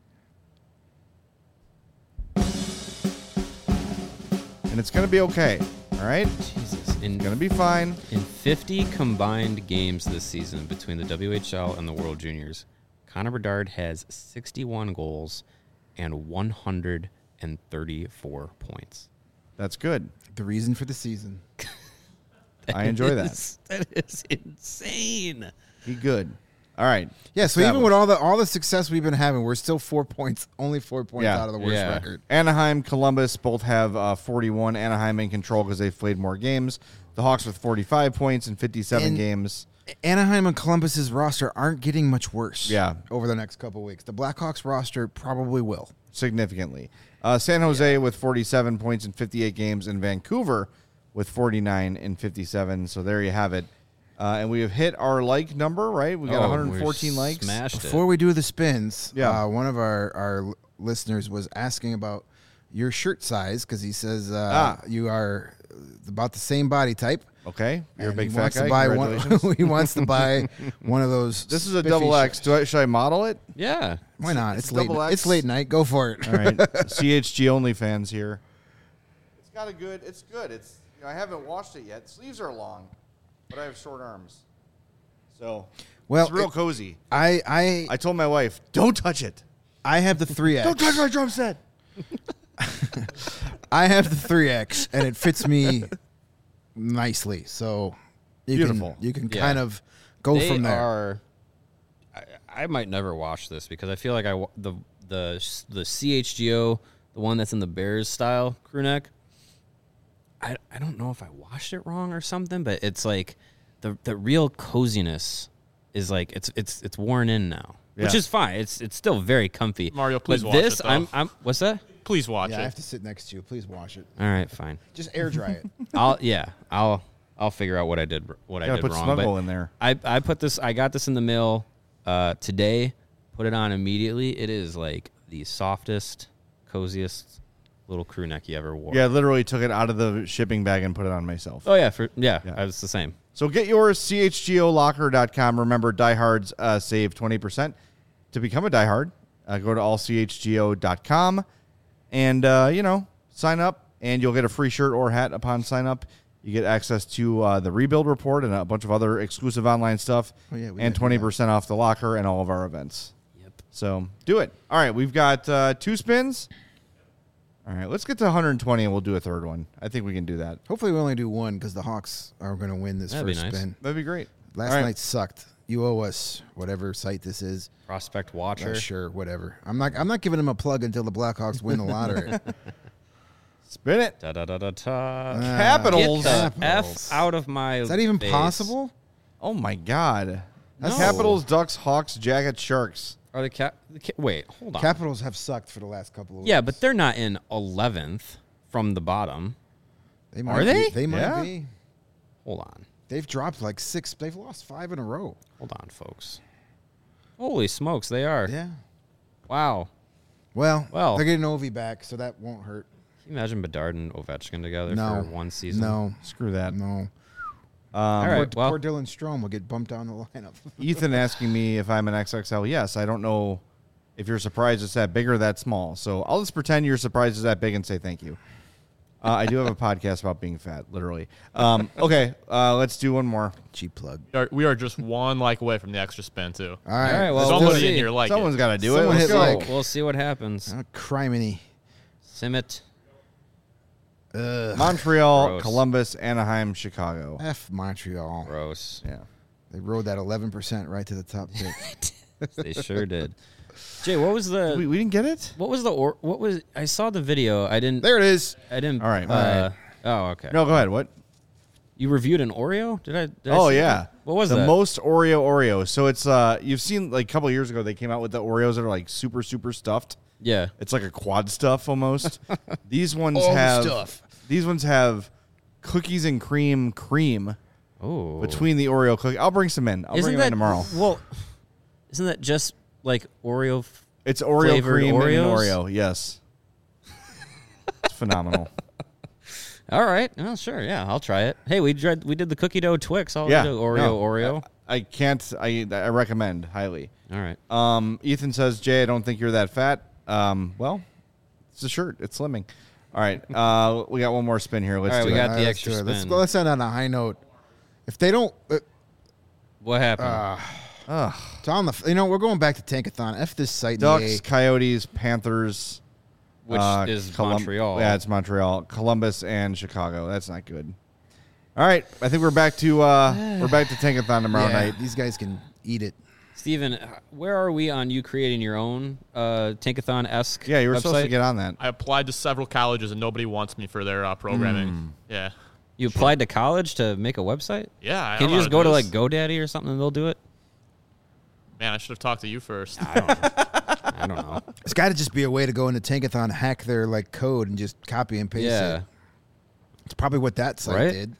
And it's going to be okay. All right? Jesus. In, It's going to be fine. in fifty combined games this season between the W H L and the World Juniors, Connor Bedard has sixty-one goals and one hundred thirty-four points. That's good. The reason for the season. I enjoy that. is- That is insane. Be good. All right. Yeah, so even Established. with all the all the success we've been having, we're still four points, only four points Yeah. out of the worst Yeah. record. Anaheim, Columbus both have uh, forty-one. Anaheim in control because they've played more games. The Hawks with forty-five points in fifty-seven And- games. Anaheim and Columbus's roster aren't getting much worse. Yeah. over the next couple weeks. The Blackhawks roster probably will. Significantly. Uh, San Jose with forty-seven points in fifty-eight games, and Vancouver with forty-nine in fifty-seven. So there you have it. Uh, and we have hit our like number, right? We got Oh, one hundred fourteen we likes. Smashed Before it. we do the spins, Yeah. uh, one of our, our l- listeners was asking about your shirt size because he says uh, Ah. you are about the same body type. Okay, you're a and big he fat wants guy. to buy one. Congratulations. He wants to buy one of those. This is a spiffy double sh- X. Do I, should I model it? Yeah. Why not? It's, It's late. double X. It's late night. Go for it. All right, C H G only fans here. It's got a good. It's good. It's. You know, I haven't washed it yet. Sleeves are long, but I have short arms, so Well, it's real it- cozy. I I I told my wife, "Don't touch it. I have the three X. Don't touch my drum set." I have the three X, and it fits me nicely. So you Beautiful. Can, you can Yeah. kind of go they from there. Are, I, I might never wash this because I feel like I wa- the the the C H G O, the one that's in the Bears style crew neck. I I don't know if I washed it wrong or something, but it's like the the real coziness is like it's it's it's worn in now, which Yeah. is fine. It's it's still very comfy. Mario, please but watch this it, though. I'm I'm what's that? Please watch yeah, I it. have to sit next to you. Please wash it. All right, fine. Just air dry it. I'll yeah I'll I'll figure out what I did what I Gotta did put wrong. Snuggle but in there. I I put this I got this in the mail uh, today. Put it on immediately. It is like the softest, coziest little crew neck you ever wore. Yeah, I literally took it out of the shipping bag and put it on myself. Oh yeah, for yeah, Yeah. I was the same. So get yours, C H G O locker dot com. Remember, diehards uh, save twenty percent. To become a diehard, uh, go to all C H G O dot com and, uh, you know, sign up, and you'll get a free shirt or hat upon sign up. You get access to uh, the Rebuild Report and a bunch of other exclusive online stuff, Oh, yeah, we and did do twenty percent off the locker and all of our events. Yep. So do it. All right, we've got uh, two spins. All right, let's get to one hundred twenty, and we'll do a third one. I think we can do that. Hopefully, we only do one because the Hawks are going to win this That'd be first nice. spin. That'd be great. Last All right. night sucked. You owe us whatever site this is. Prospect Uh, Watcher. sure, whatever. I'm not. I'm not giving him a plug until the Blackhawks win the lottery. Spin it. Da da da da da. Uh, Capitals. Get the Capitals. F out of my. Is that even face. possible? Oh, my God. No. Capitals, Ducks, Hawks, Jackets, Sharks. Are the cap? The ca- wait, hold on. Capitals have sucked for the last couple of weeks. yeah, but they're not in eleventh from the bottom. they are be- they? They might Yeah. be. Hold on. They've dropped like six. They've lost five in a row. Hold on, folks. Holy smokes, they are. Yeah. Wow. Well, Well. they're getting Ovi back, so that won't hurt. Can you imagine Bedard and Ovechkin together No. for one season? No. Screw that. No. Um, All right. Poor, well, poor Dylan Strome will get bumped down the lineup. Ethan asking me if I'm an X X L. Yes, I don't know if you're surprised it's that big or that small. So I'll just pretend you're surprised it's that big and say thank you. Uh, I do have a podcast about being fat, literally. Um, okay, uh, let's do one more. Cheap plug. We are, we are just one like away from the extra spin, too. All right. All right, well, let's we'll do Somebody it. in here like Someone's it. got to do Someone it. Let's hit go. like- we'll see what happens. Oh, criminy. Simmet. Ugh. Montreal, Gross. Columbus, Anaheim, Chicago. F Montreal. Gross. Yeah. They rode that eleven percent right to the top pick. They sure did. Jay, what was the We, we didn't get it? what was the or what was I saw the video. I didn't There it is. I didn't All right, uh, all right. Oh, okay. No, go ahead. What? You reviewed an Oreo? Did I? Did I Oh see yeah, that? What was the that? most Oreo Oreo? So it's uh, you've seen like a couple years ago they came out with the Oreos that are like super super stuffed. Yeah. It's like a quad stuff almost. These ones All the have stuff. These ones have cookies and cream cream Oh. between the Oreo cookie. I'll bring some in. I'll Isn't bring that them in tomorrow. Well, isn't that just like Oreo? F- It's Oreo flavored cream and an Oreos? Oreo. Yes, it's phenomenal. All right. Oh, sure. Yeah, I'll try it. Hey, we tried, we did the cookie dough Twix. I'll Yeah, do Oreo no, Oreo. I can't. I I recommend highly. All right. Um, Ethan says, Jay, I don't think you're that fat. Um, well, it's a shirt. It's slimming. All right. Uh, we got one more spin here. Let's All right, do we it. got All the right, extra let's do it. Let's spin. go. Let's end on a high note. If they don't, uh, What happened? uh, it's on the. You know, we're going back to Tankathon. F this site. in the Ducks, A. Coyotes, Panthers. Which uh, is Colum- Montreal. Yeah, it's Montreal, Columbus, and Chicago. That's not good. All right, I think we're back to uh, we're back to Tankathon tomorrow Yeah, night. these guys can eat it. Steven, where are we on you creating your own uh, Tankathon-esque Yeah, you were website? supposed to get on that. I applied to several colleges and nobody wants me for their uh, programming. Yeah. You applied to college to make a website? Yeah. I Can don't you know just how go to do like this. GoDaddy or something and they'll do it? Man, I should have talked to you first. I don't know. I don't know. It's got to just be a way to go into Tankathon, hack their like code, and just copy and paste Yeah. it. It's probably what that site Right? did.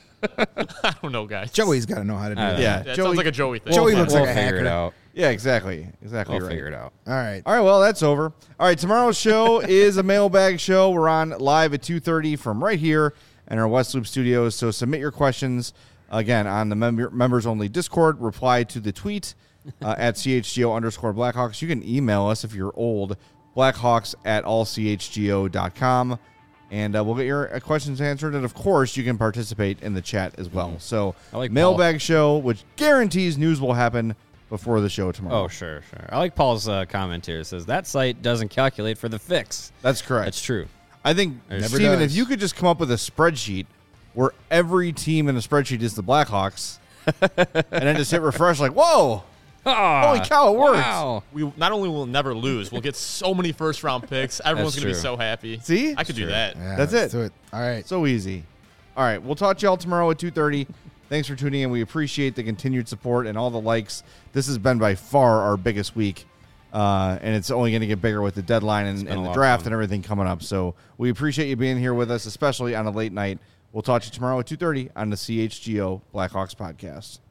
I don't know, guys. Joey's got to know how to do I that. don't Yeah, That Joey- sounds like a Joey thing. Joey We'll looks fi- like a we'll figure it hacker. out. Yeah, exactly, exactly We'll right. figure it out. All right. All right, well, that's over. All right, tomorrow's show is a mailbag show. We're on live at two thirty from right here and our West Loop studios. So submit your questions, again, on the member, members-only Discord. Reply to the tweet uh, at CHGO underscore Blackhawks. You can email us if you're old, blackhawks at all c h g o dot com. And uh, we'll get your uh, questions answered. And, of course, you can participate in the chat as well. Mm. So, I like mailbag Paul. show, which guarantees news will happen before the show tomorrow. Oh, sure, sure. I like Paul's uh, comment here. It says, that site doesn't calculate for the fix. That's correct. That's true. I think, Never Steven, does. if you could just come up with a spreadsheet where every team in the spreadsheet is the Blackhawks, and then just hit refresh like, whoa, Ah, holy cow, it works. Wow. We not only will never lose, we'll get so many first round picks. Everyone's That's gonna be true. so happy. See? I could do True. that. Yeah, That's let's it. do it. All right. So easy. All right, we'll talk to y'all tomorrow at two thirty. Thanks for tuning in. We appreciate the continued support and all the likes. This has been by far our biggest week, uh, and it's only going to get bigger with the deadline and, been and a the lot of draft fun. and everything coming up. So we appreciate you being here with us, especially on a late night. We'll talk to you tomorrow at two thirty on the C H G O Blackhawks podcast.